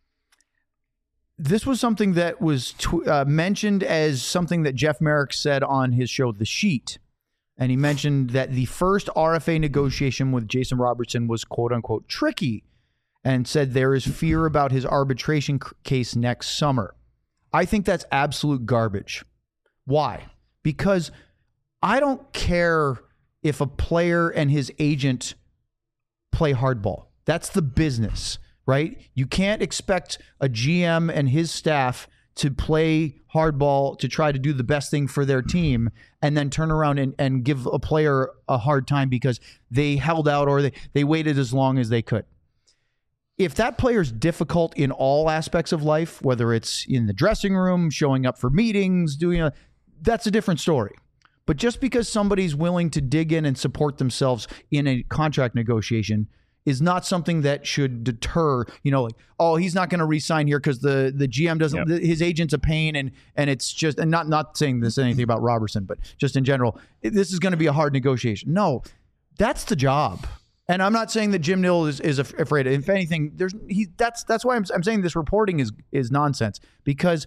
This was something that was tw- uh, mentioned as something that Jeff Merrick said on his show, The Sheet. And he mentioned that the first R F A negotiation with Jason Robertson was quote unquote tricky, and said there is fear about his arbitration c- case next summer. I think that's absolute garbage. Why? Because I don't care if a player and his agent play hardball. That's the business, right? You can't expect a G M and his staff to play hardball to try to do the best thing for their team and then turn around and, and give a player a hard time because they held out or they, they waited as long as they could. If that player's difficult in all aspects of life, whether it's in the dressing room, showing up for meetings, doing a, that's a different story. But just because somebody's willing to dig in and support themselves in a contract negotiation is not something that should deter, you know, like, oh, he's not going to re-sign here because the, the G M doesn't, Yep. the, his agent's a pain. And, and it's just, and not, not saying this anything about Robertson, but just in general, this is going to be a hard negotiation. No, that's the job. And I'm not saying that Jim Nill is, is af- afraid. If anything, there's he. That's that's why I'm, I'm saying this reporting is is nonsense, because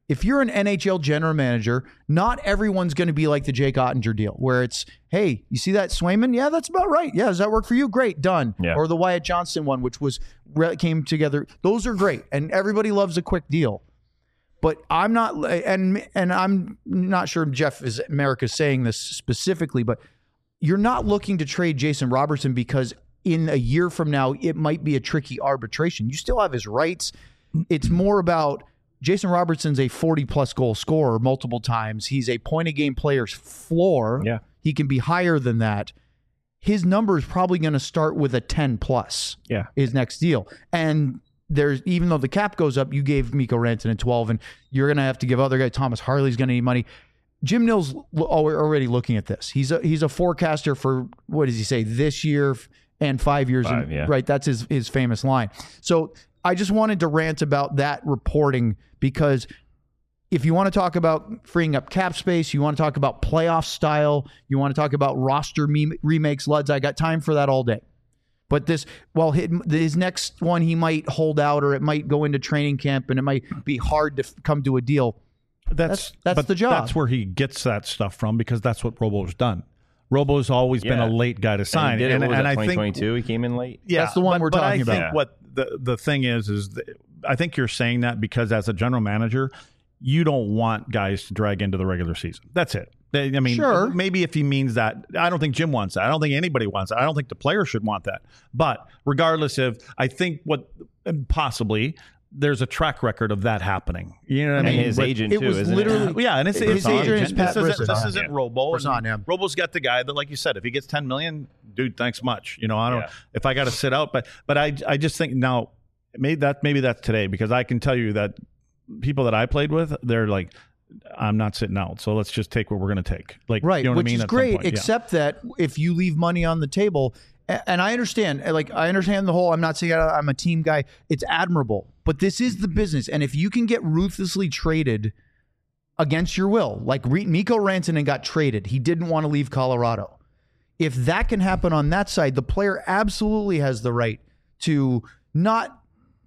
If you're an N H L general manager, not everyone's going to be like the Jake Ottinger deal, where it's, hey, you see that Swayman? Yeah, that's about right. Yeah, does that work for you? Great, done. Yeah. Or the Wyatt Johnston one, which was came together. Those are great, and everybody loves a quick deal. But I'm not, and and I'm not sure Jeff is America's saying this specifically, but you're not looking to trade Jason Robertson because in a year from now it might be a tricky arbitration. You still have his rights. It's more about Jason Robertson's a forty plus goal scorer multiple times. He's a point a game player's floor. Yeah. He can be higher than that. His number is probably going to start with a ten plus. Yeah. His next deal. And there's, even though the cap goes up, you gave Mikko Rantanen twelve, and you're going to have to give other guys. Thomas Harley's going to need money. Jim Nill's already looking at this. He's a he's a forecaster for, what does he say, this year and five years. Five, in, yeah. Right. That's his his famous line. So I just wanted to rant about that reporting, because if you want to talk about freeing up cap space, you want to talk about playoff style, you want to talk about roster me- remakes, Luds, I got time for that all day. But this, well, his next one, he might hold out, or it might go into training camp, and it might be hard to come to a deal. That's That's, that's but the job. That's where he gets that stuff from, because that's what Robo's done. Robo's always been Yeah. a late guy to sign, And, he did it, and, what was and that, I twenty think twenty-two, he came in late. yeah, That's the one but, we're but talking I about. think Yeah. what the the thing is is that I think you're saying that because as a general manager, you don't want guys to drag into the regular season. That's it. They- I mean, Sure. maybe if he means that, I don't think Jim wants that. I don't think anybody wants that. I don't think the player should want that. But regardless of, I think what possibly there's a track record of that happening. You know what I And mean? his But- agent, it too, was isn't literally- it? yeah, and it's, His it's agent agent. is Pat This isn't, this Brisson. isn't Yeah. Robo. Brisson, yeah. Robo's got the guy that, like you said, if he gets ten million, dude, thanks much. You know, I don't. Yeah. If I got to sit out, but but I I just think now, maybe that maybe that's today, because I can tell you that people that I played with, they're like, I'm not sitting out, so let's just take what we're going to take. Like, Right, you know what which I mean? is At some great, point, yeah. except that if you leave money on the table, a- and I understand, like I understand the whole, I'm not saying I'm a team guy, it's admirable, but this is the business, and if you can get ruthlessly traded against your will, like Re- Mikko Rantanen got traded, he didn't want to leave Colorado. If that can happen on that side, the player absolutely has the right to not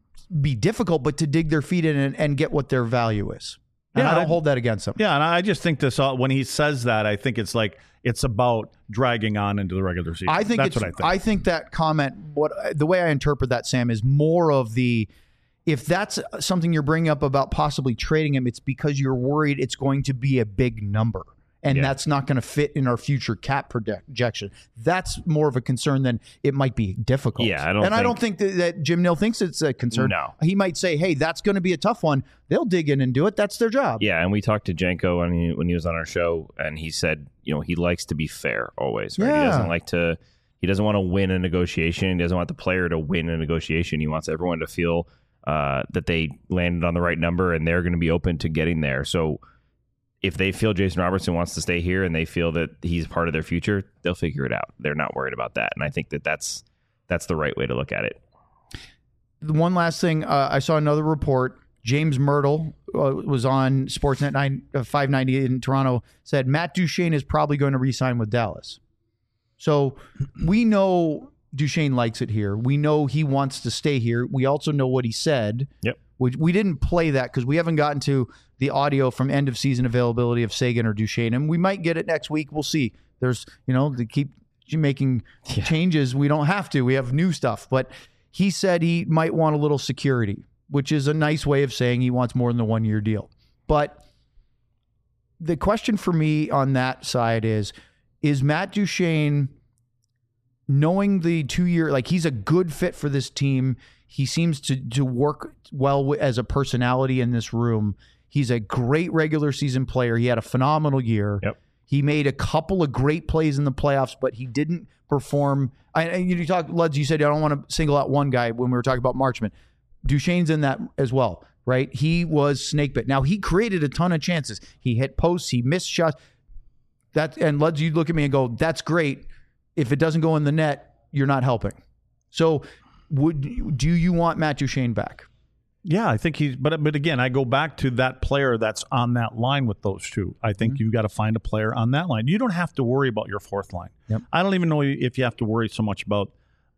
be difficult, but to dig their feet in and, and get what their value is. And Yeah, I don't I- hold that against them. Yeah, and I just think this all, when he says that, I think it's like it's about dragging on into the regular season. I think that's it's, what I think. think that comment, what the way I interpret that, Sam, is more of the, if that's something you're bringing up about possibly trading him, it's because you're worried it's going to be a big number, and Yeah. that's not going to fit in our future cap projection. That's more of a concern than it might be difficult. Yeah, I don't and I think- don't think that, that Jim Nill thinks it's a concern. No. He might say, hey, that's going to be a tough one. They'll dig in and do it. That's their job. Yeah, and we talked to Jenko when he, when he was on our show, and he said, you know, he likes to be fair always. Right? He Yeah. doesn't like to. He doesn't want to win a negotiation. He doesn't want the player to win a negotiation. He wants everyone to feel uh, that they landed on the right number, and they're going to be open to getting there. So if they feel Jason Robertson wants to stay here and they feel that he's part of their future, they'll figure it out. They're not worried about that, and I think that that's that's the right way to look at it. The one last thing, uh, I saw another report. James Myrtle uh, was on Sportsnet nine, uh, five ninety in Toronto, said Matt Duchene is probably going to re-sign with Dallas. So we know Duchene likes it here. We know he wants to stay here. We also know what he said. Yep. We, we didn't play that because we haven't gotten to the audio from end of season availability of Sagan or Duchene, and we might get it next week. We'll see. There's, you know, to keep making Yeah. changes. We don't have to. We have new stuff. But he said he might want a little security, which is a nice way of saying he wants more than the one-year deal. But the question for me on that side is, is Matt Duchene, knowing the two-year, like he's a good fit for this team, he seems to to work well w- as a personality in this room. He's a great regular season player. He had a phenomenal year. Yep. He made a couple of great plays in the playoffs, but he didn't perform. I, and you talk, Luds, you said I don't want to single out one guy when we were talking about Marchment. Duchene's in that as well, right? He was snake bit. Now, he created a ton of chances. He hit posts. He missed shots. That, and Luds, you look at me and go, that's great. If it doesn't go in the net, you're not helping. So would do you want Matt Duchene back? Yeah, I think he's. But but again, I go back to that player that's on that line with those two. I think Mm-hmm. you've got to find a player on that line. You don't have to worry about your fourth line. Yep. I don't even know if you have to worry so much about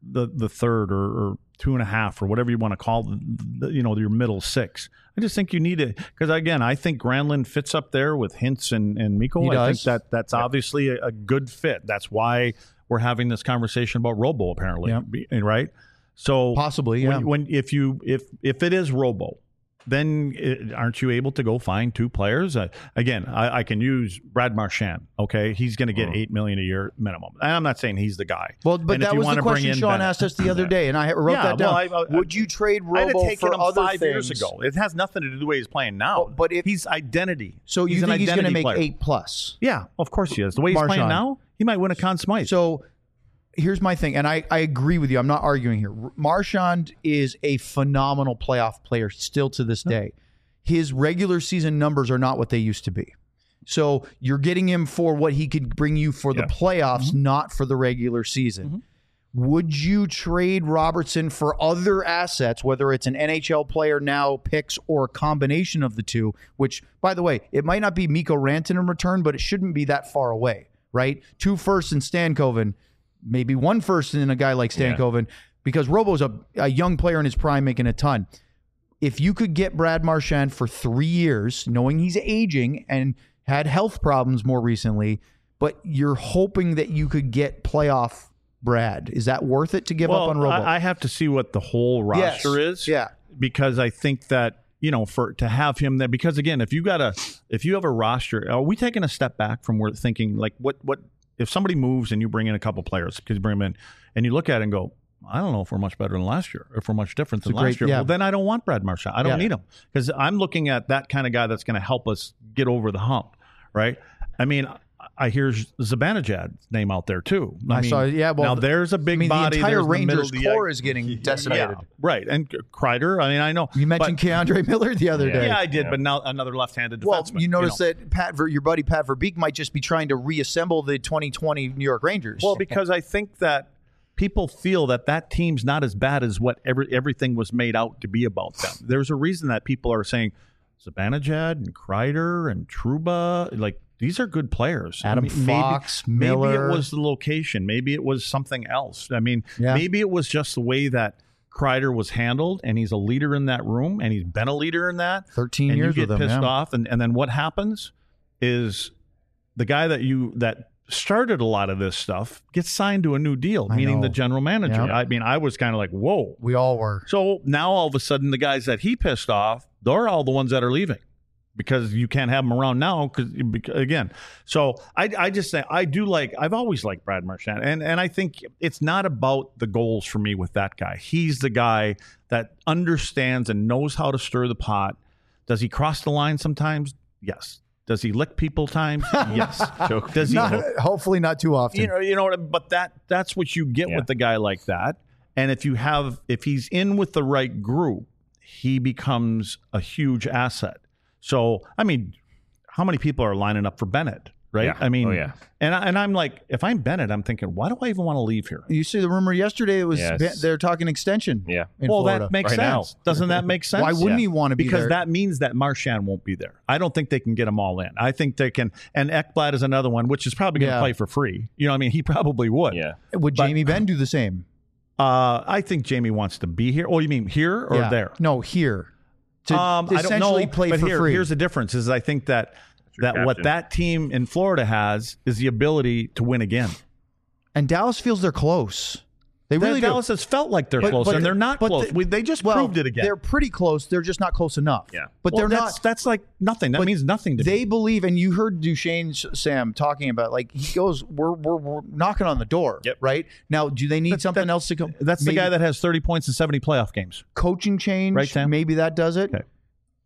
the the third or, or two and a half or whatever you want to call the, the, you know, your middle six. I just think you need it because again, I think Granlund fits up there with Hintz and, and Mikko. He I does. think that that's Yep. obviously a, a good fit. That's why we're having this conversation about Robo apparently, Yep. Be- right? So Possibly, yeah. when, when if you if if it is Robo, then it, aren't you able to go find two players? Uh, again, I, I can use Brad Marchand. Okay, he's going to get Mm. eight million a year minimum. And I'm not saying he's the guy. Well, but And if that you was the wanna bring question in Sean Bennett- asked us the other day, and I wrote Yeah, that down. well, I- I- Would you trade I'd have Robo taken for him other five things? years ago. It has nothing to do with the way he's playing now. Oh, but if- he's identity. So you he's an think he's going to identity make player. eight plus? Yeah, of course he is. The way he's Marchand. playing now, he might win a Conn Smythe. So here's my thing, and I, I agree with you. I'm not arguing here. Marchand is a phenomenal playoff player still to this day. His regular season numbers are not what they used to be. So you're getting him for what he could bring you for the Yeah. playoffs, Mm-hmm. not for the regular season. Would you trade Robertson for other assets, whether it's an N H L player now, picks, or a combination of the two? Which, by the way, it might not be Mikko Rantanen in return, but it shouldn't be that far away, right? Two firsts in Stankoven, maybe one first in a guy like Stankoven, because Robo's a, a young player in his prime making a ton. If you could get Brad Marchand for three years, knowing he's aging and had health problems more recently, but you're hoping that you could get playoff Brad, is that worth it to give well, up on Robo? I, I have to see what the whole Yes. roster is. Yeah. because I think that, you know, for to have him there, because again, if you got a, if you have a roster, are we taking a step back from where thinking like what, what, if somebody moves and you bring in a couple players, because you bring them in and you look at it and go, I don't know if we're much better than last year, if we're much different than a great- last year. yeah. Well, then I don't want Brad Marchand. I don't Yeah. need him because I'm looking at that kind of guy that's going to help us get over the hump, right? I mean, I hear Zibanejad's name out there too. I, I mean, saw- yeah, well, now there's a big I mean, body. the entire there's the middle Rangers of the- core is getting decimated. Yeah, right. And Kreider, I mean, I know. You mentioned but, Keandre Miller the other Yeah. day. yeah, I did, Yeah. but now another left-handed Well, defenseman. you notice know. that Pat, Ver, your buddy Pat Verbeek might just be trying to reassemble the twenty twenty New York Rangers. Well, because I think that people feel that that team's not as bad as what every, everything was made out to be about them. There's a reason that people are saying Zibanejad and Kreider and Trouba, like these are good players. Adam I mean, maybe- Fox, maybe, Miller. it was the location. Maybe it was something else. I mean, Yeah. maybe it was just the way that Kreider was handled, and he's a leader in that room, and he's been a leader in that. thirteen and years you get with him. pissed yeah. off, and, and then what happens is the guy that you that started a lot of this stuff gets signed to a new deal, I meaning know. the general manager. Yeah. I mean, I was kind of like, whoa. We all were. So now all of a sudden, the guys that he pissed off, they're all the ones that are leaving because you can't have them around now. Because again, so I, I just say I do like. I've always liked Brad Marchand, and and I think it's not about the goals for me with that guy. He's the guy that understands and knows how to stir the pot. Does he cross the line sometimes? Yes. Does he lick people times? Yes. Does he? Not, hopefully not too often. You know, you know what? But that that's what you get Yeah. with the guy like that. And if you have, if he's in with the right group, he becomes a huge asset. So, I mean, how many people are lining up for Bennett? Right? Yeah. I mean, Oh, yeah. and I, and I'm like, if I'm Bennett, I'm thinking, why do I even want to leave here? you see the rumor yesterday, it was Yes. they're talking extension Yeah. in well, Florida. that makes Right now. sense. Doesn't that make sense? Why wouldn't Yeah. he want to be Because there? that means that Marchand won't be there. I don't think they can get them all in. I think they can. And Ekblad is another one, which is probably going to Yeah. play for free. You know, what I mean, he probably would. Yeah. Would but- Jamie Benn do the same? Uh, I think Jamie wants to be here. Oh, you mean here or Yeah. there? No, here. To Um, I don't essentially know, play but for here, free. Here's the difference: is I think that your that what captain. that team in Florida has is the ability to win again. and Dallas feels they're close. They Really really do. Dallas has felt like they're But- close, but- and they're not but close. the- we, they just well, proved it again. They're pretty close. They're just not close enough. Yeah. But Well, they're that's, not. That's like nothing. That but means nothing to They me. believe, and you heard Duchesne Sam talking about, like he goes, "We're we're, we're knocking on the door." Yep. Right now, do they need That- something that- else to come? That's maybe the guy that has thirty points in seventy playoff games. coaching change. Right, Sam? Maybe that does it. Okay.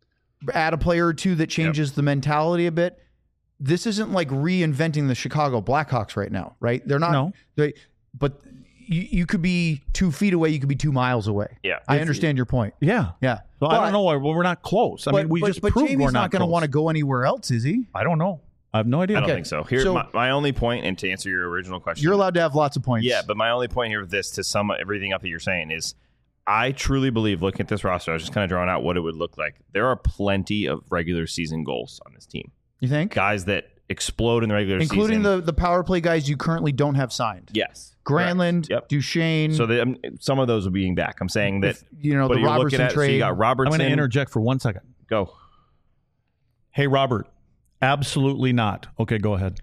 Add a player or two that changes the mentality a bit. This isn't like reinventing the Chicago Blackhawks right now, right? They're not. No. They, but you, you could be two feet away. You could be two miles away. Yeah. I understand your point. Yeah. Yeah. So I don't know why well, we're not close. I but, mean, we but, just but proved Jamie's we're not, not going to close. want to go anywhere else, is he? I don't know. I have no idea. I don't Okay. think so. Here's So- my, my only point, and to answer your original question, You're allowed to have lots of points. Yeah, but my only point here with this, to sum everything up that you're saying, is I truly believe, looking at this roster, I was just kind of drawing out what it would look like. There are plenty of regular season goals on this team. You think? Guys that explode in the regular including season. the the power play guys you currently don't have signed. Yes. Granlund, Yep. Duchesne. So they, um, some of those will be being back. I'm saying that, if, you know, but the you're looking Robertson at, trade. so you got I'm Robertson. going to interject for one second. Go. Hey, Robert. Absolutely not. Okay, go ahead.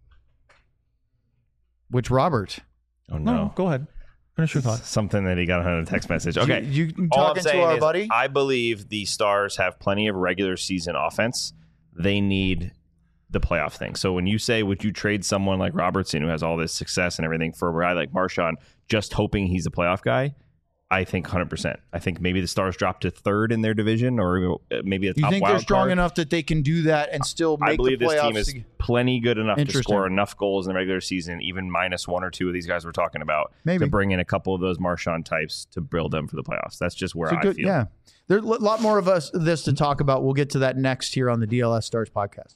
Which Robert? Oh, no. No, go ahead. Finish your thought. Something that he got on a text message. Okay. You, you All I'm talking to saying our is buddy? I believe the Stars have plenty of regular season offense. They need the playoff thing. So when you say, would you trade someone like Robertson who has all this success and everything for a guy like Marchand just hoping he's a playoff guy? I think one hundred percent. I think maybe the Stars drop to third in their division or maybe a top you think wild they're strong card. enough that they can do that and still make I believe the this playoffs? team is plenty good enough to Interesting. score enough goals in the regular season, even minus one or two of these guys we're talking about, Maybe. to bring in a couple of those Marchand types to build them for the playoffs. That's just where It's a I good- feel. Yeah, there's a lot more of us this to talk about. We'll get to that next here on the D L S Stars podcast.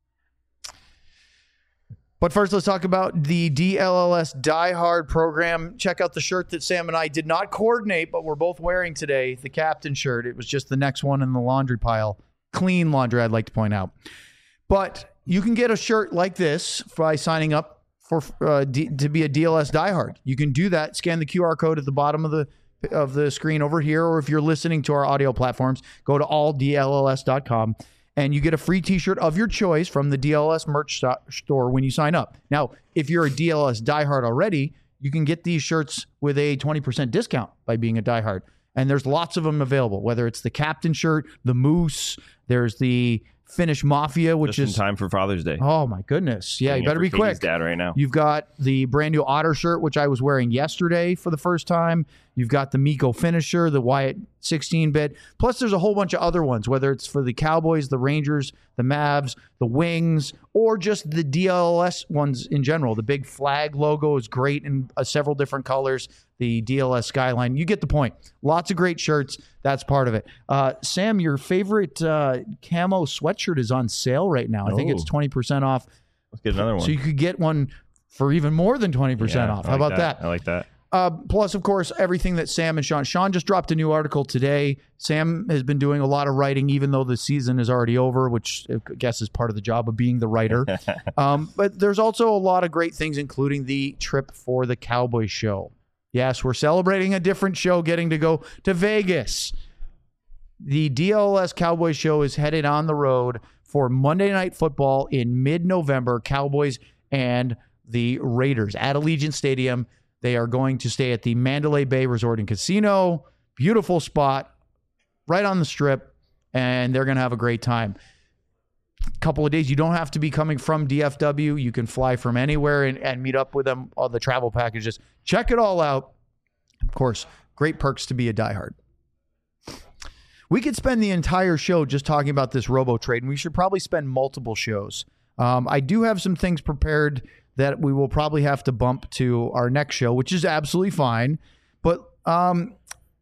But first, let's talk about the D L L S Die Hard program. Check out the shirt that Sam and I did not coordinate, but we're both wearing today, the captain shirt. It was just the next one in the laundry pile. Clean laundry, I'd like to point out. But you can get a shirt like this by signing up for uh, D- to be a D L S Die Hard. You can do that. Scan the Q R code at the bottom of the of the screen over here, or if you're listening to our audio platforms, go to all D L L S dot com. And you get a free t-shirt of your choice from the D L S merch sto- store when you sign up. Now, if you're a D L S diehard already, you can get these shirts with a twenty percent discount by being a diehard. And there's lots of them available, whether it's the captain shirt, the moose, there's the Finnish Mafia, which Just is in time for Father's Day. oh my goodness. Yeah, Getting you it better for be Katie's quick. dad right now. You've got the brand new Otter shirt, which I was wearing yesterday for the first time. You've got the Miko finisher, the Wyatt sixteen bit. Plus, there's a whole bunch of other ones, whether it's for the Cowboys, the Rangers, the Mavs, the Wings, or just the D L S ones in general. The big flag logo is great in uh, several different colors. The D L S skyline. You get the point. Lots of great shirts. That's part of it. Uh, Sam, your favorite uh, camo sweatshirt is on sale right now. I think it's Oh. twenty percent off. Let's get another one. So you could get one for even more than twenty percent Yeah, off. I How like about that? I like that. Uh, plus, of course, everything that Sam and Sean. Sean just dropped a new article today. Sam has been doing a lot of writing, even though the season is already over, which I guess is part of the job of being the writer. um, but there's also a lot of great things, including the trip for the Cowboy show. Yes, we're celebrating a different show, getting to go to Vegas. The D L S Cowboy show is headed on the road for Monday Night Football in mid-November. Cowboys and the Raiders at Allegiant Stadium. They are going to stay at the Mandalay Bay Resort and Casino. Beautiful spot, right on the strip, and they're going to have a great time. Couple of days. You don't have to be coming from D F W. You can fly from anywhere and, and meet up with them on the travel packages. Check it all out. Of course, great perks to be a diehard. We could spend the entire show just talking about this robo trade, and we should probably spend multiple shows. Um, I do have some things prepared that we will probably have to bump to our next show, which is absolutely fine. But um,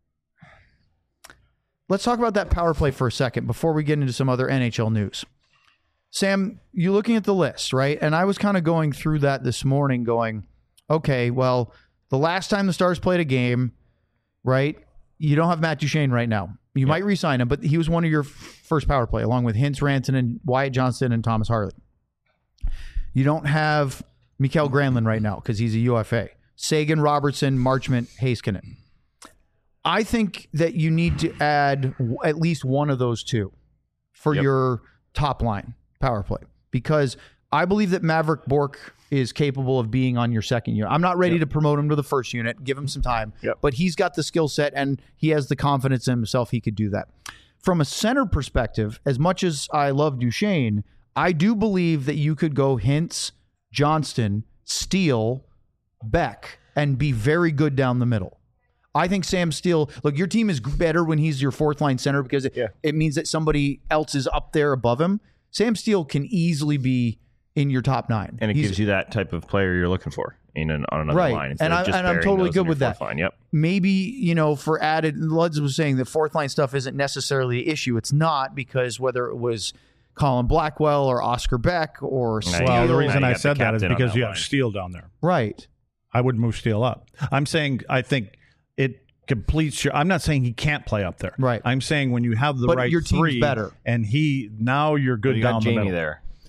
let's talk about that power play for a second before we get into some other N H L news. Sam, you're looking at the list, right? And I was kind of going through that this morning going, okay, well, the last time the Stars played a game, right, you don't have Matt Duchesne right now. You yep. might re-sign him, but he was one of your first power play, along with Hintz, Rantanen, and Wyatt Johnston and Thomas Harley. You don't have Mikael Granlund right now because he's a U F A. Sagan, Robertson, Marchment, Heiskanen. I think that you need to add w- at least one of those two for yep. your top line power play, because I believe that Maverick Bourque is capable of being on your second unit. I'm not ready yep. to promote him to the first unit. Give him some time. Yep. But he's got the skill set and he has the confidence in himself he could do that. From a center perspective, as much as I love Duchesne, I do believe that you could go Hintz, Johnston, Steele, Beck, and be very good down the middle. I think Sam Steele, look, your team is better when he's your fourth line center because it, yeah. it means that somebody else is up there above him. Sam Steele can easily be in your top nine. And it He's, gives you that type of player you're looking for in an, on another right. line. And, I, and I'm totally good with that. Line. Yep. Maybe, you know, for added, Luds was saying that fourth line stuff isn't necessarily the issue. It's not, because whether it was Colin Blackwell or Oscar Beck or Steele. Well, the Now reason you I got said the that is captain on because that you line. have Steele down there. Right. I would move Steele up. I'm saying I think it completes your. I'm not saying he can't play up there. Right. I'm saying when you have the But right your team's three, better. and he now you're good you down got the Jamie middle. there.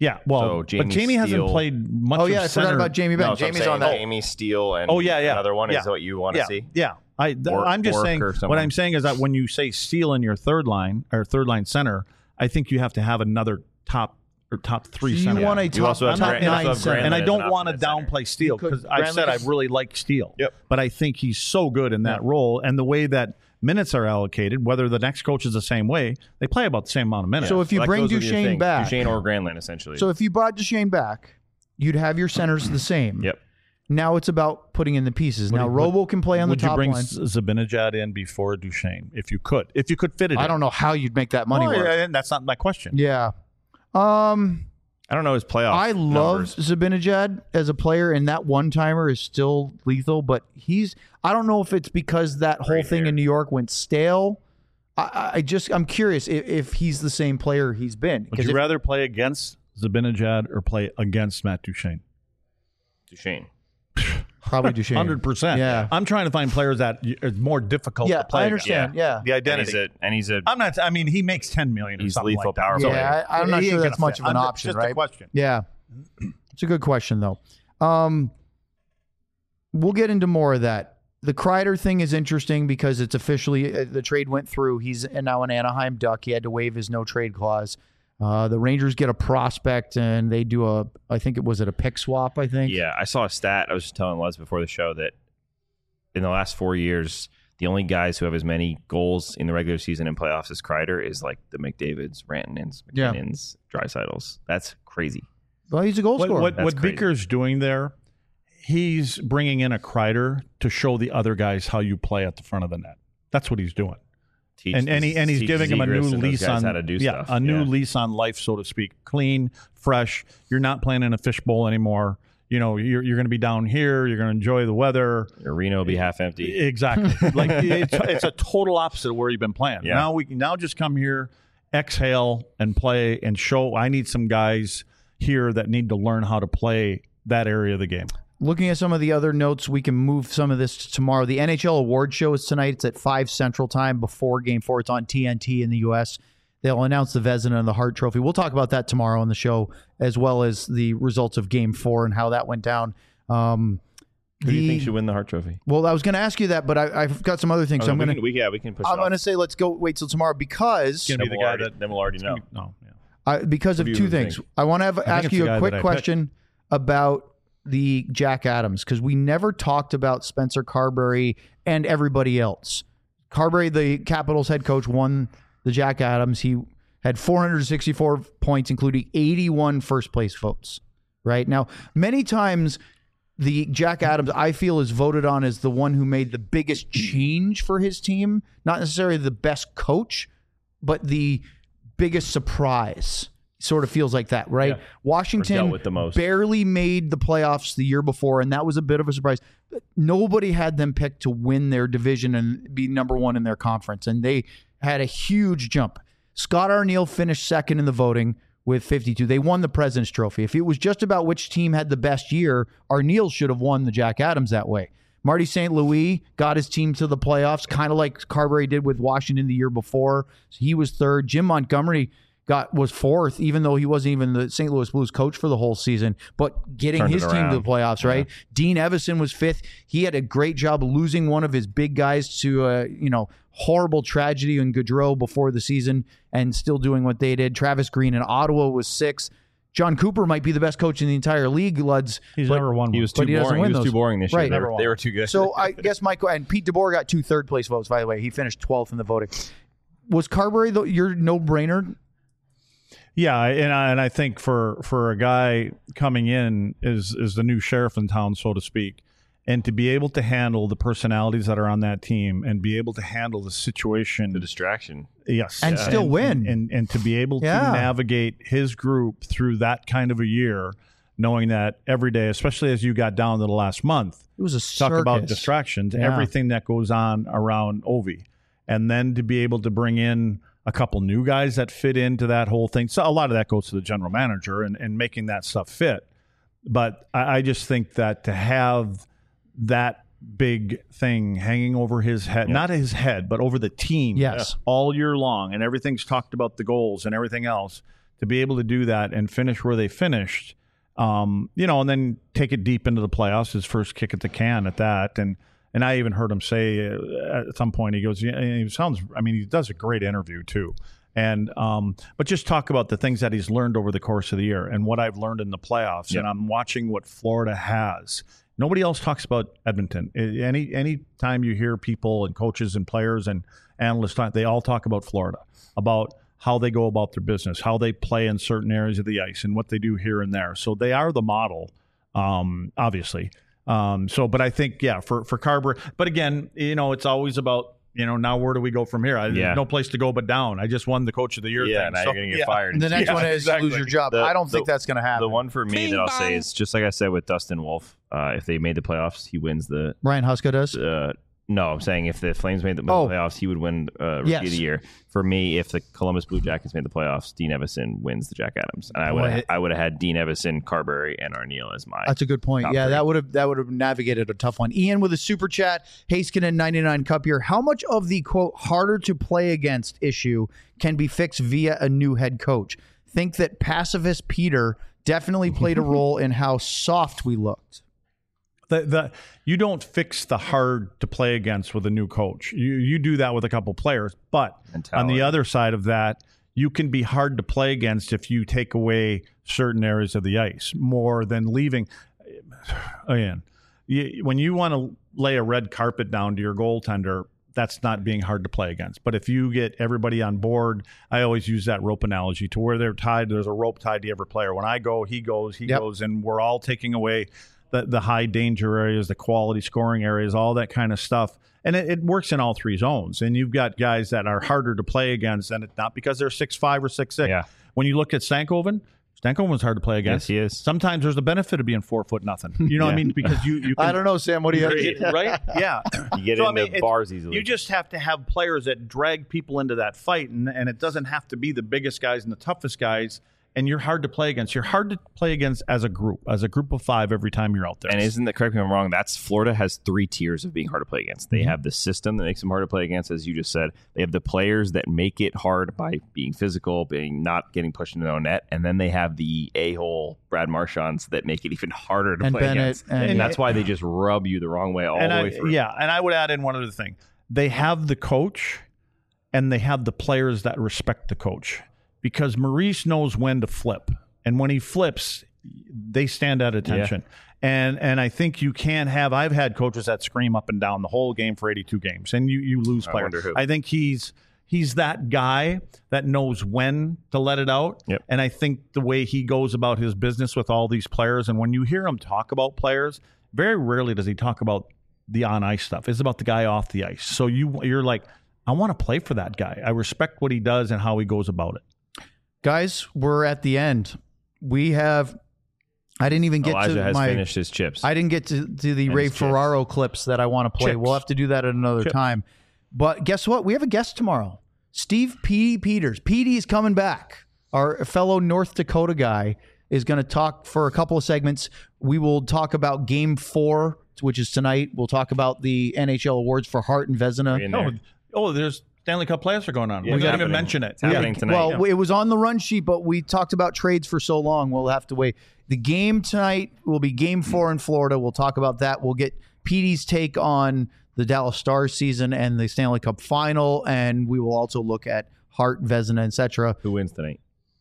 Yeah, well, So but Jamie Jamie hasn't Steele- played much. Oh yeah, of I forgot center. about Jamie Benn. No, so I'm Jamie's saying on that. Jamie Steele and Oh yeah, yeah. another one yeah. is what you want to yeah. see. Yeah, I, th- Or- I'm just or saying. Kerr What someone. I'm saying is that when you say Steele in your third line or third line center, I think you have to have another top or top three So you center. want a You top, also have top Grant- you also nine have center. Grant- and I as an don't option want to at center. downplay Steele could- because I've said I Grant- really like Steele. Yep. But I think he's so good in that role, and the way that minutes are allocated, whether the next coach is the same way, they play about the same amount of minutes. So if you That bring goes with your Duchesne thing. back, Duchesne or Granlund, essentially. so if you brought Duchesne back, you'd have your centers the same. Yep. Now it's about putting in the pieces. Would now you- Robo can play on the would you top bring line. Z- Zabinajad in before Duchesne if you could? If you could fit it, I in. don't know how you'd make that money Well, work. yeah, that's not my question. Yeah. Um, I don't know his playoff. I love numbers. Zabinajad as a player, and that one timer is still lethal. But he's, I don't know if it's because that whole Great thing hair. in New York went stale. I, I just, I'm curious if, if he's the same player he's been. Would Because you if- rather play against Zabinajad or play against Matt Duchesne? Duchesne. probably Duchesne. Hundred percent. Yeah. I'm trying to find players that y- is more difficult Yeah, to play. I against. understand. Yeah. The And identity. he's a and he's a I'm not. I mean, he makes ten million. Or He's something lethal like that. power So play. Yeah, I, I'm not he sure ain't that's gonna much fit. of an I'm- option, just right? a question. Yeah. It's a good question, though. Um, we'll get into more of that. The Kreider thing is interesting because it's officially, uh, the trade went through. He's now an Anaheim Duck. He had to waive his no trade clause. Uh, the Rangers get a prospect and they do a, I think it was it a pick swap, I think. Yeah, I saw a stat. I was just telling Les before the show that in the last four years, the only guys who have as many goals in the regular season and playoffs as Kreider is like the McDavids, Rantanens, Yeah. McKinnons, Dreisaitl's. That's crazy. Well, he's a goal What scorer. what, That's what crazy. Beaker's doing there? He's bringing in a Kreider to show the other guys how you play at the front of the net. That's what he's doing. Teach and and, he, and he's teach giving him a Zegras new and those lease guys on how to do yeah, stuff. a new Yeah. lease on life, so to speak. Clean, fresh. You're not playing in a fishbowl anymore. You know, you're you're going to be down here. You're going to enjoy the weather. Your arena will be half empty. Exactly. Like it's, it's a total opposite of where you've been playing. Yeah. Now we can now just come here, exhale, and play and show. I need some guys here that need to learn how to play that area of the game. Looking at some of the other notes, we can move some of this to tomorrow. The N H L award show is tonight. It's at five Central Time before Game four. It's on T N T in the U S. They'll announce the Vezina and the Hart Trophy. We'll talk about that tomorrow on the show, as well as the results of Game four and how that went down. Um, Who do you the- think should win the Hart Trophy? well, I was going to ask you that, but I, I've got some other things. Oh, so I'm we going can, we, yeah, we can push. I'm it going to off. say let's go wait till tomorrow because Gonna be Then the we'll guy already- that- then we'll already know. No, yeah. I, because of Who do two you things. think? I want to have, ask it's the you guy a quick that I question about the Jack Adams because we never talked about Spencer Carberry and everybody else. Carberry, the Capitals head coach, won the Jack Adams. He had four hundred sixty-four points, including eighty-one first place votes. Right now, many times the Jack Adams, I feel, is voted on as the one who made the biggest change for his team. Not necessarily the best coach, but the biggest surprise. Sort of feels like that, right? Yeah. Washington Or dealt with the most. barely made the playoffs the year before, and that was a bit of a surprise. Nobody had them picked to win their division and be number one in their conference, and they had a huge jump. Scott Arniel finished second in the voting with fifty-two. They won the President's Trophy. If it was just about which team had the best year, Arniel should have won the Jack Adams that way. Marty Saint Louis got his team to the playoffs, kind of like Carberry did with Washington the year before. So he was third. Jim Montgomery got was fourth, even though he wasn't even the Saint Louis Blues coach for the whole season, but getting Turned it his team to around. the playoffs, right? Dean Evison was fifth. He had a great job losing one of his big guys to a, you know, horrible tragedy in Gaudreau before the season and still doing what they did. Travis Green in Ottawa was sixth. John Cooper might be the best coach in the entire league, Luds. He's but- never won one. He was But too he doesn't boring. win He was those. too boring this year. Right. They, Never were, won. they were too good. So I guess Michael and Pete DeBoer got two third place votes, by the way. He finished twelfth in the voting. Was Carberry the, your no-brainer? Yeah, and I, and I think for for a guy coming in is is the new sheriff in town, so to speak, and to be able to handle the personalities that are on that team and be able to handle the situation, the distraction. yes, And still win. and, and and to be able Yeah. to navigate his group through that kind of a year, knowing that every day, especially as you got down to the last month, It was a talk circus. about distractions, Yeah. everything that goes on around Ovi, and then to be able to bring in a couple new guys that fit into that whole thing. So a lot of that goes to the general manager and, and making that stuff fit. But I, I just think that to have that big thing hanging over his head, not his head, but over the team Yes. all year long, and everything's talked about the goals and everything else, to be able to do that and finish where they finished, um, you know, and then take it deep into the playoffs, his first kick at the can at that. And and I even heard him say uh, at some point, he goes, yeah, he sounds, I mean, he does a great interview too. And um, but just talk about the things that he's learned over the course of the year and what I've learned in the playoffs. Yep. And I'm watching what Florida has. Nobody else talks about Edmonton. Any any time you hear people and coaches and players and analysts talk, they all talk about Florida, about how they go about their business, how they play in certain areas of the ice, and what they do here and there. So they are the model, um, obviously. Um, so, but I think, yeah, for for Carber. But again, you know, it's always about, you know, now where do we go from here? I, yeah. There's no place to go but down. I just won the Coach of the Year. Yeah, thing, now so, you're going to get yeah. fired. And the next yeah, one is exactly. lose your job. The, I don't the, think that's going to happen. The one for me Bing that I'll bong. say is just like I said with Dustin Wolf. Uh, if they made the playoffs, he wins the. Ryan Huska does. Uh, no, I'm saying if the Flames made the Oh. playoffs, he would win uh, Rookie Yes. of the Year. For me, if the Columbus Blue Jackets made the playoffs, Dean Evison wins the Jack Adams, and I would Boy. I would have had Dean Evison, Carberry, and Arneal as my. That's a good point. top Yeah, three. that would have that would have navigated a tough one. Ian with a super chat. Haskinen ninety-nine Cup here. How much of the quote harder to play against issue can be fixed via a new head coach? Think that pacifist Peter definitely played a role in how soft we looked. The, the you don't fix the hard to play against with a new coach. You you do that with a couple players, but Mentality. on the other side of that, you can be hard to play against if you take away certain areas of the ice more than leaving. Again, you, when you want to lay a red carpet down to your goaltender, that's not being hard to play against. But if you get everybody on board, I always use that rope analogy to where they're tied. There's a rope tied to every player. When I go, he goes, he Yep. goes, and we're all taking away the, the high danger areas, the quality scoring areas, all that kind of stuff. And it, it works in all three zones. And you've got guys that are harder to play against, and it's not because they're six five or six six. Yeah. When you look at Stankoven, Stankoven's hard to play against. Yes, he is. Sometimes there's a benefit of being four foot nothing. You know what I Yeah. mean? Because you, you can, I don't know, Sam. What do you right? right? Yeah. You get So, I into mean, it's- bars easily. You just have to have players that drag people into that fight, and, and it doesn't have to be the biggest guys and the toughest guys. And you're hard to play against. You're hard to play against as a group, as a group of five every time you're out there. And isn't that, correct me if I'm wrong, that's Florida has three tiers of being hard to play against. They Mm-hmm. have the system that makes them hard to play against, as you just said. They have the players that make it hard by being physical, being not getting pushed into their own net. And then they have the a-hole Brad Marchands that make it even harder to And play Bennett against. and- And, that's why they just rub you the wrong way all and the I, way through. Yeah, and I would add in one other thing. They have the coach, and they have the players that respect the coach. Because Maurice knows when to flip. And when he flips, they stand at attention. And and I think you can't have – I've had coaches that scream up and down the whole game for eighty-two games, and you, you lose I players. wonder who. I think he's he's that guy that knows when to let it out. Yep. And I think the way he goes about his business with all these players, and when you hear him talk about players, very rarely does he talk about the on-ice stuff. It's about the guy off the ice. So you you're like, I want to play for that guy. I respect what he does and how he goes about it. Guys, we're at the end. We have. I didn't even get Elijah to has my. finished his chips. I didn't get to, to the And Ray his chips. Ferraro clips that I want to play. Chips. We'll have to do that at another Chips. time. But guess what? We have a guest tomorrow. Steve P. Peters. P D is coming back. Our fellow North Dakota guy is going to talk for a couple of segments. We will talk about Game Four, which is tonight. We'll talk about the N H L awards for Hart and Vezina. In there. Oh, oh, there's Stanley Cup playoffs are going on. Yeah, we it's didn't even happening. mention it. It's happening tonight. Well, it was on the run sheet, but we talked about trades for so long. We'll have to wait. The game tonight will be Game Four in Florida. We'll talk about that. We'll get Petey's take on the Dallas Stars season and the Stanley Cup final, and we will also look at Hart, Vezina, et cetera. Who wins tonight?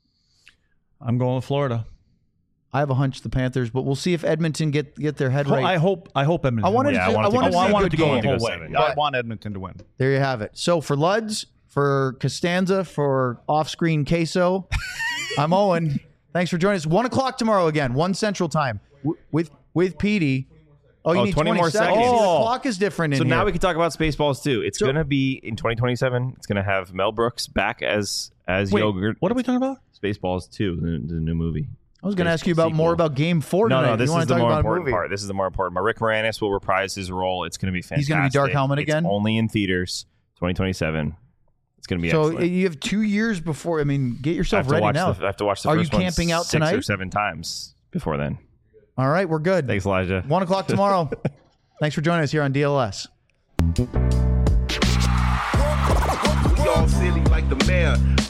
I'm going with Florida. I have a hunch the Panthers, but we'll see if Edmonton get get their head Ho- right. I hope. I hope Edmonton. I wanted wins. to- Yeah, I I want it to wanted go to I want see a it to good go the game. whole Go way. seven. I want Edmonton to win. There you have it. So for Luds, for Costanza, for off-screen Queso, I'm Owen. Thanks for joining us. One o'clock tomorrow again, one Central Time w- with with Petey. Oh, you Oh, need twenty twenty, more seconds. seconds. See, the Oh. clock is different in So here. now we can talk about Spaceballs too. It's So- going to be in twenty twenty-seven. It's going to have Mel Brooks back as as Wait, yogurt. what are we talking about? Spaceballs two, the, the new movie. I was going to Space ask you about sequel. more about Game Four No, tonight. no, this you want is to the talk more about a important movie? part. This is the more important part. Rick Moranis will reprise his role. It's going to be fantastic. He's gonna be Dark Helmet It's again? only in theaters, twenty twenty-seven. It's going to be So excellent. you have two years before. I mean, get I yourself have, to ready watch now. the, I have to watch the Are you first one camping out six tonight? or seven times before then. All right, we're good. Thanks, Elijah. One o'clock tomorrow. Thanks for joining us here on D L S. We all silly like the mayor.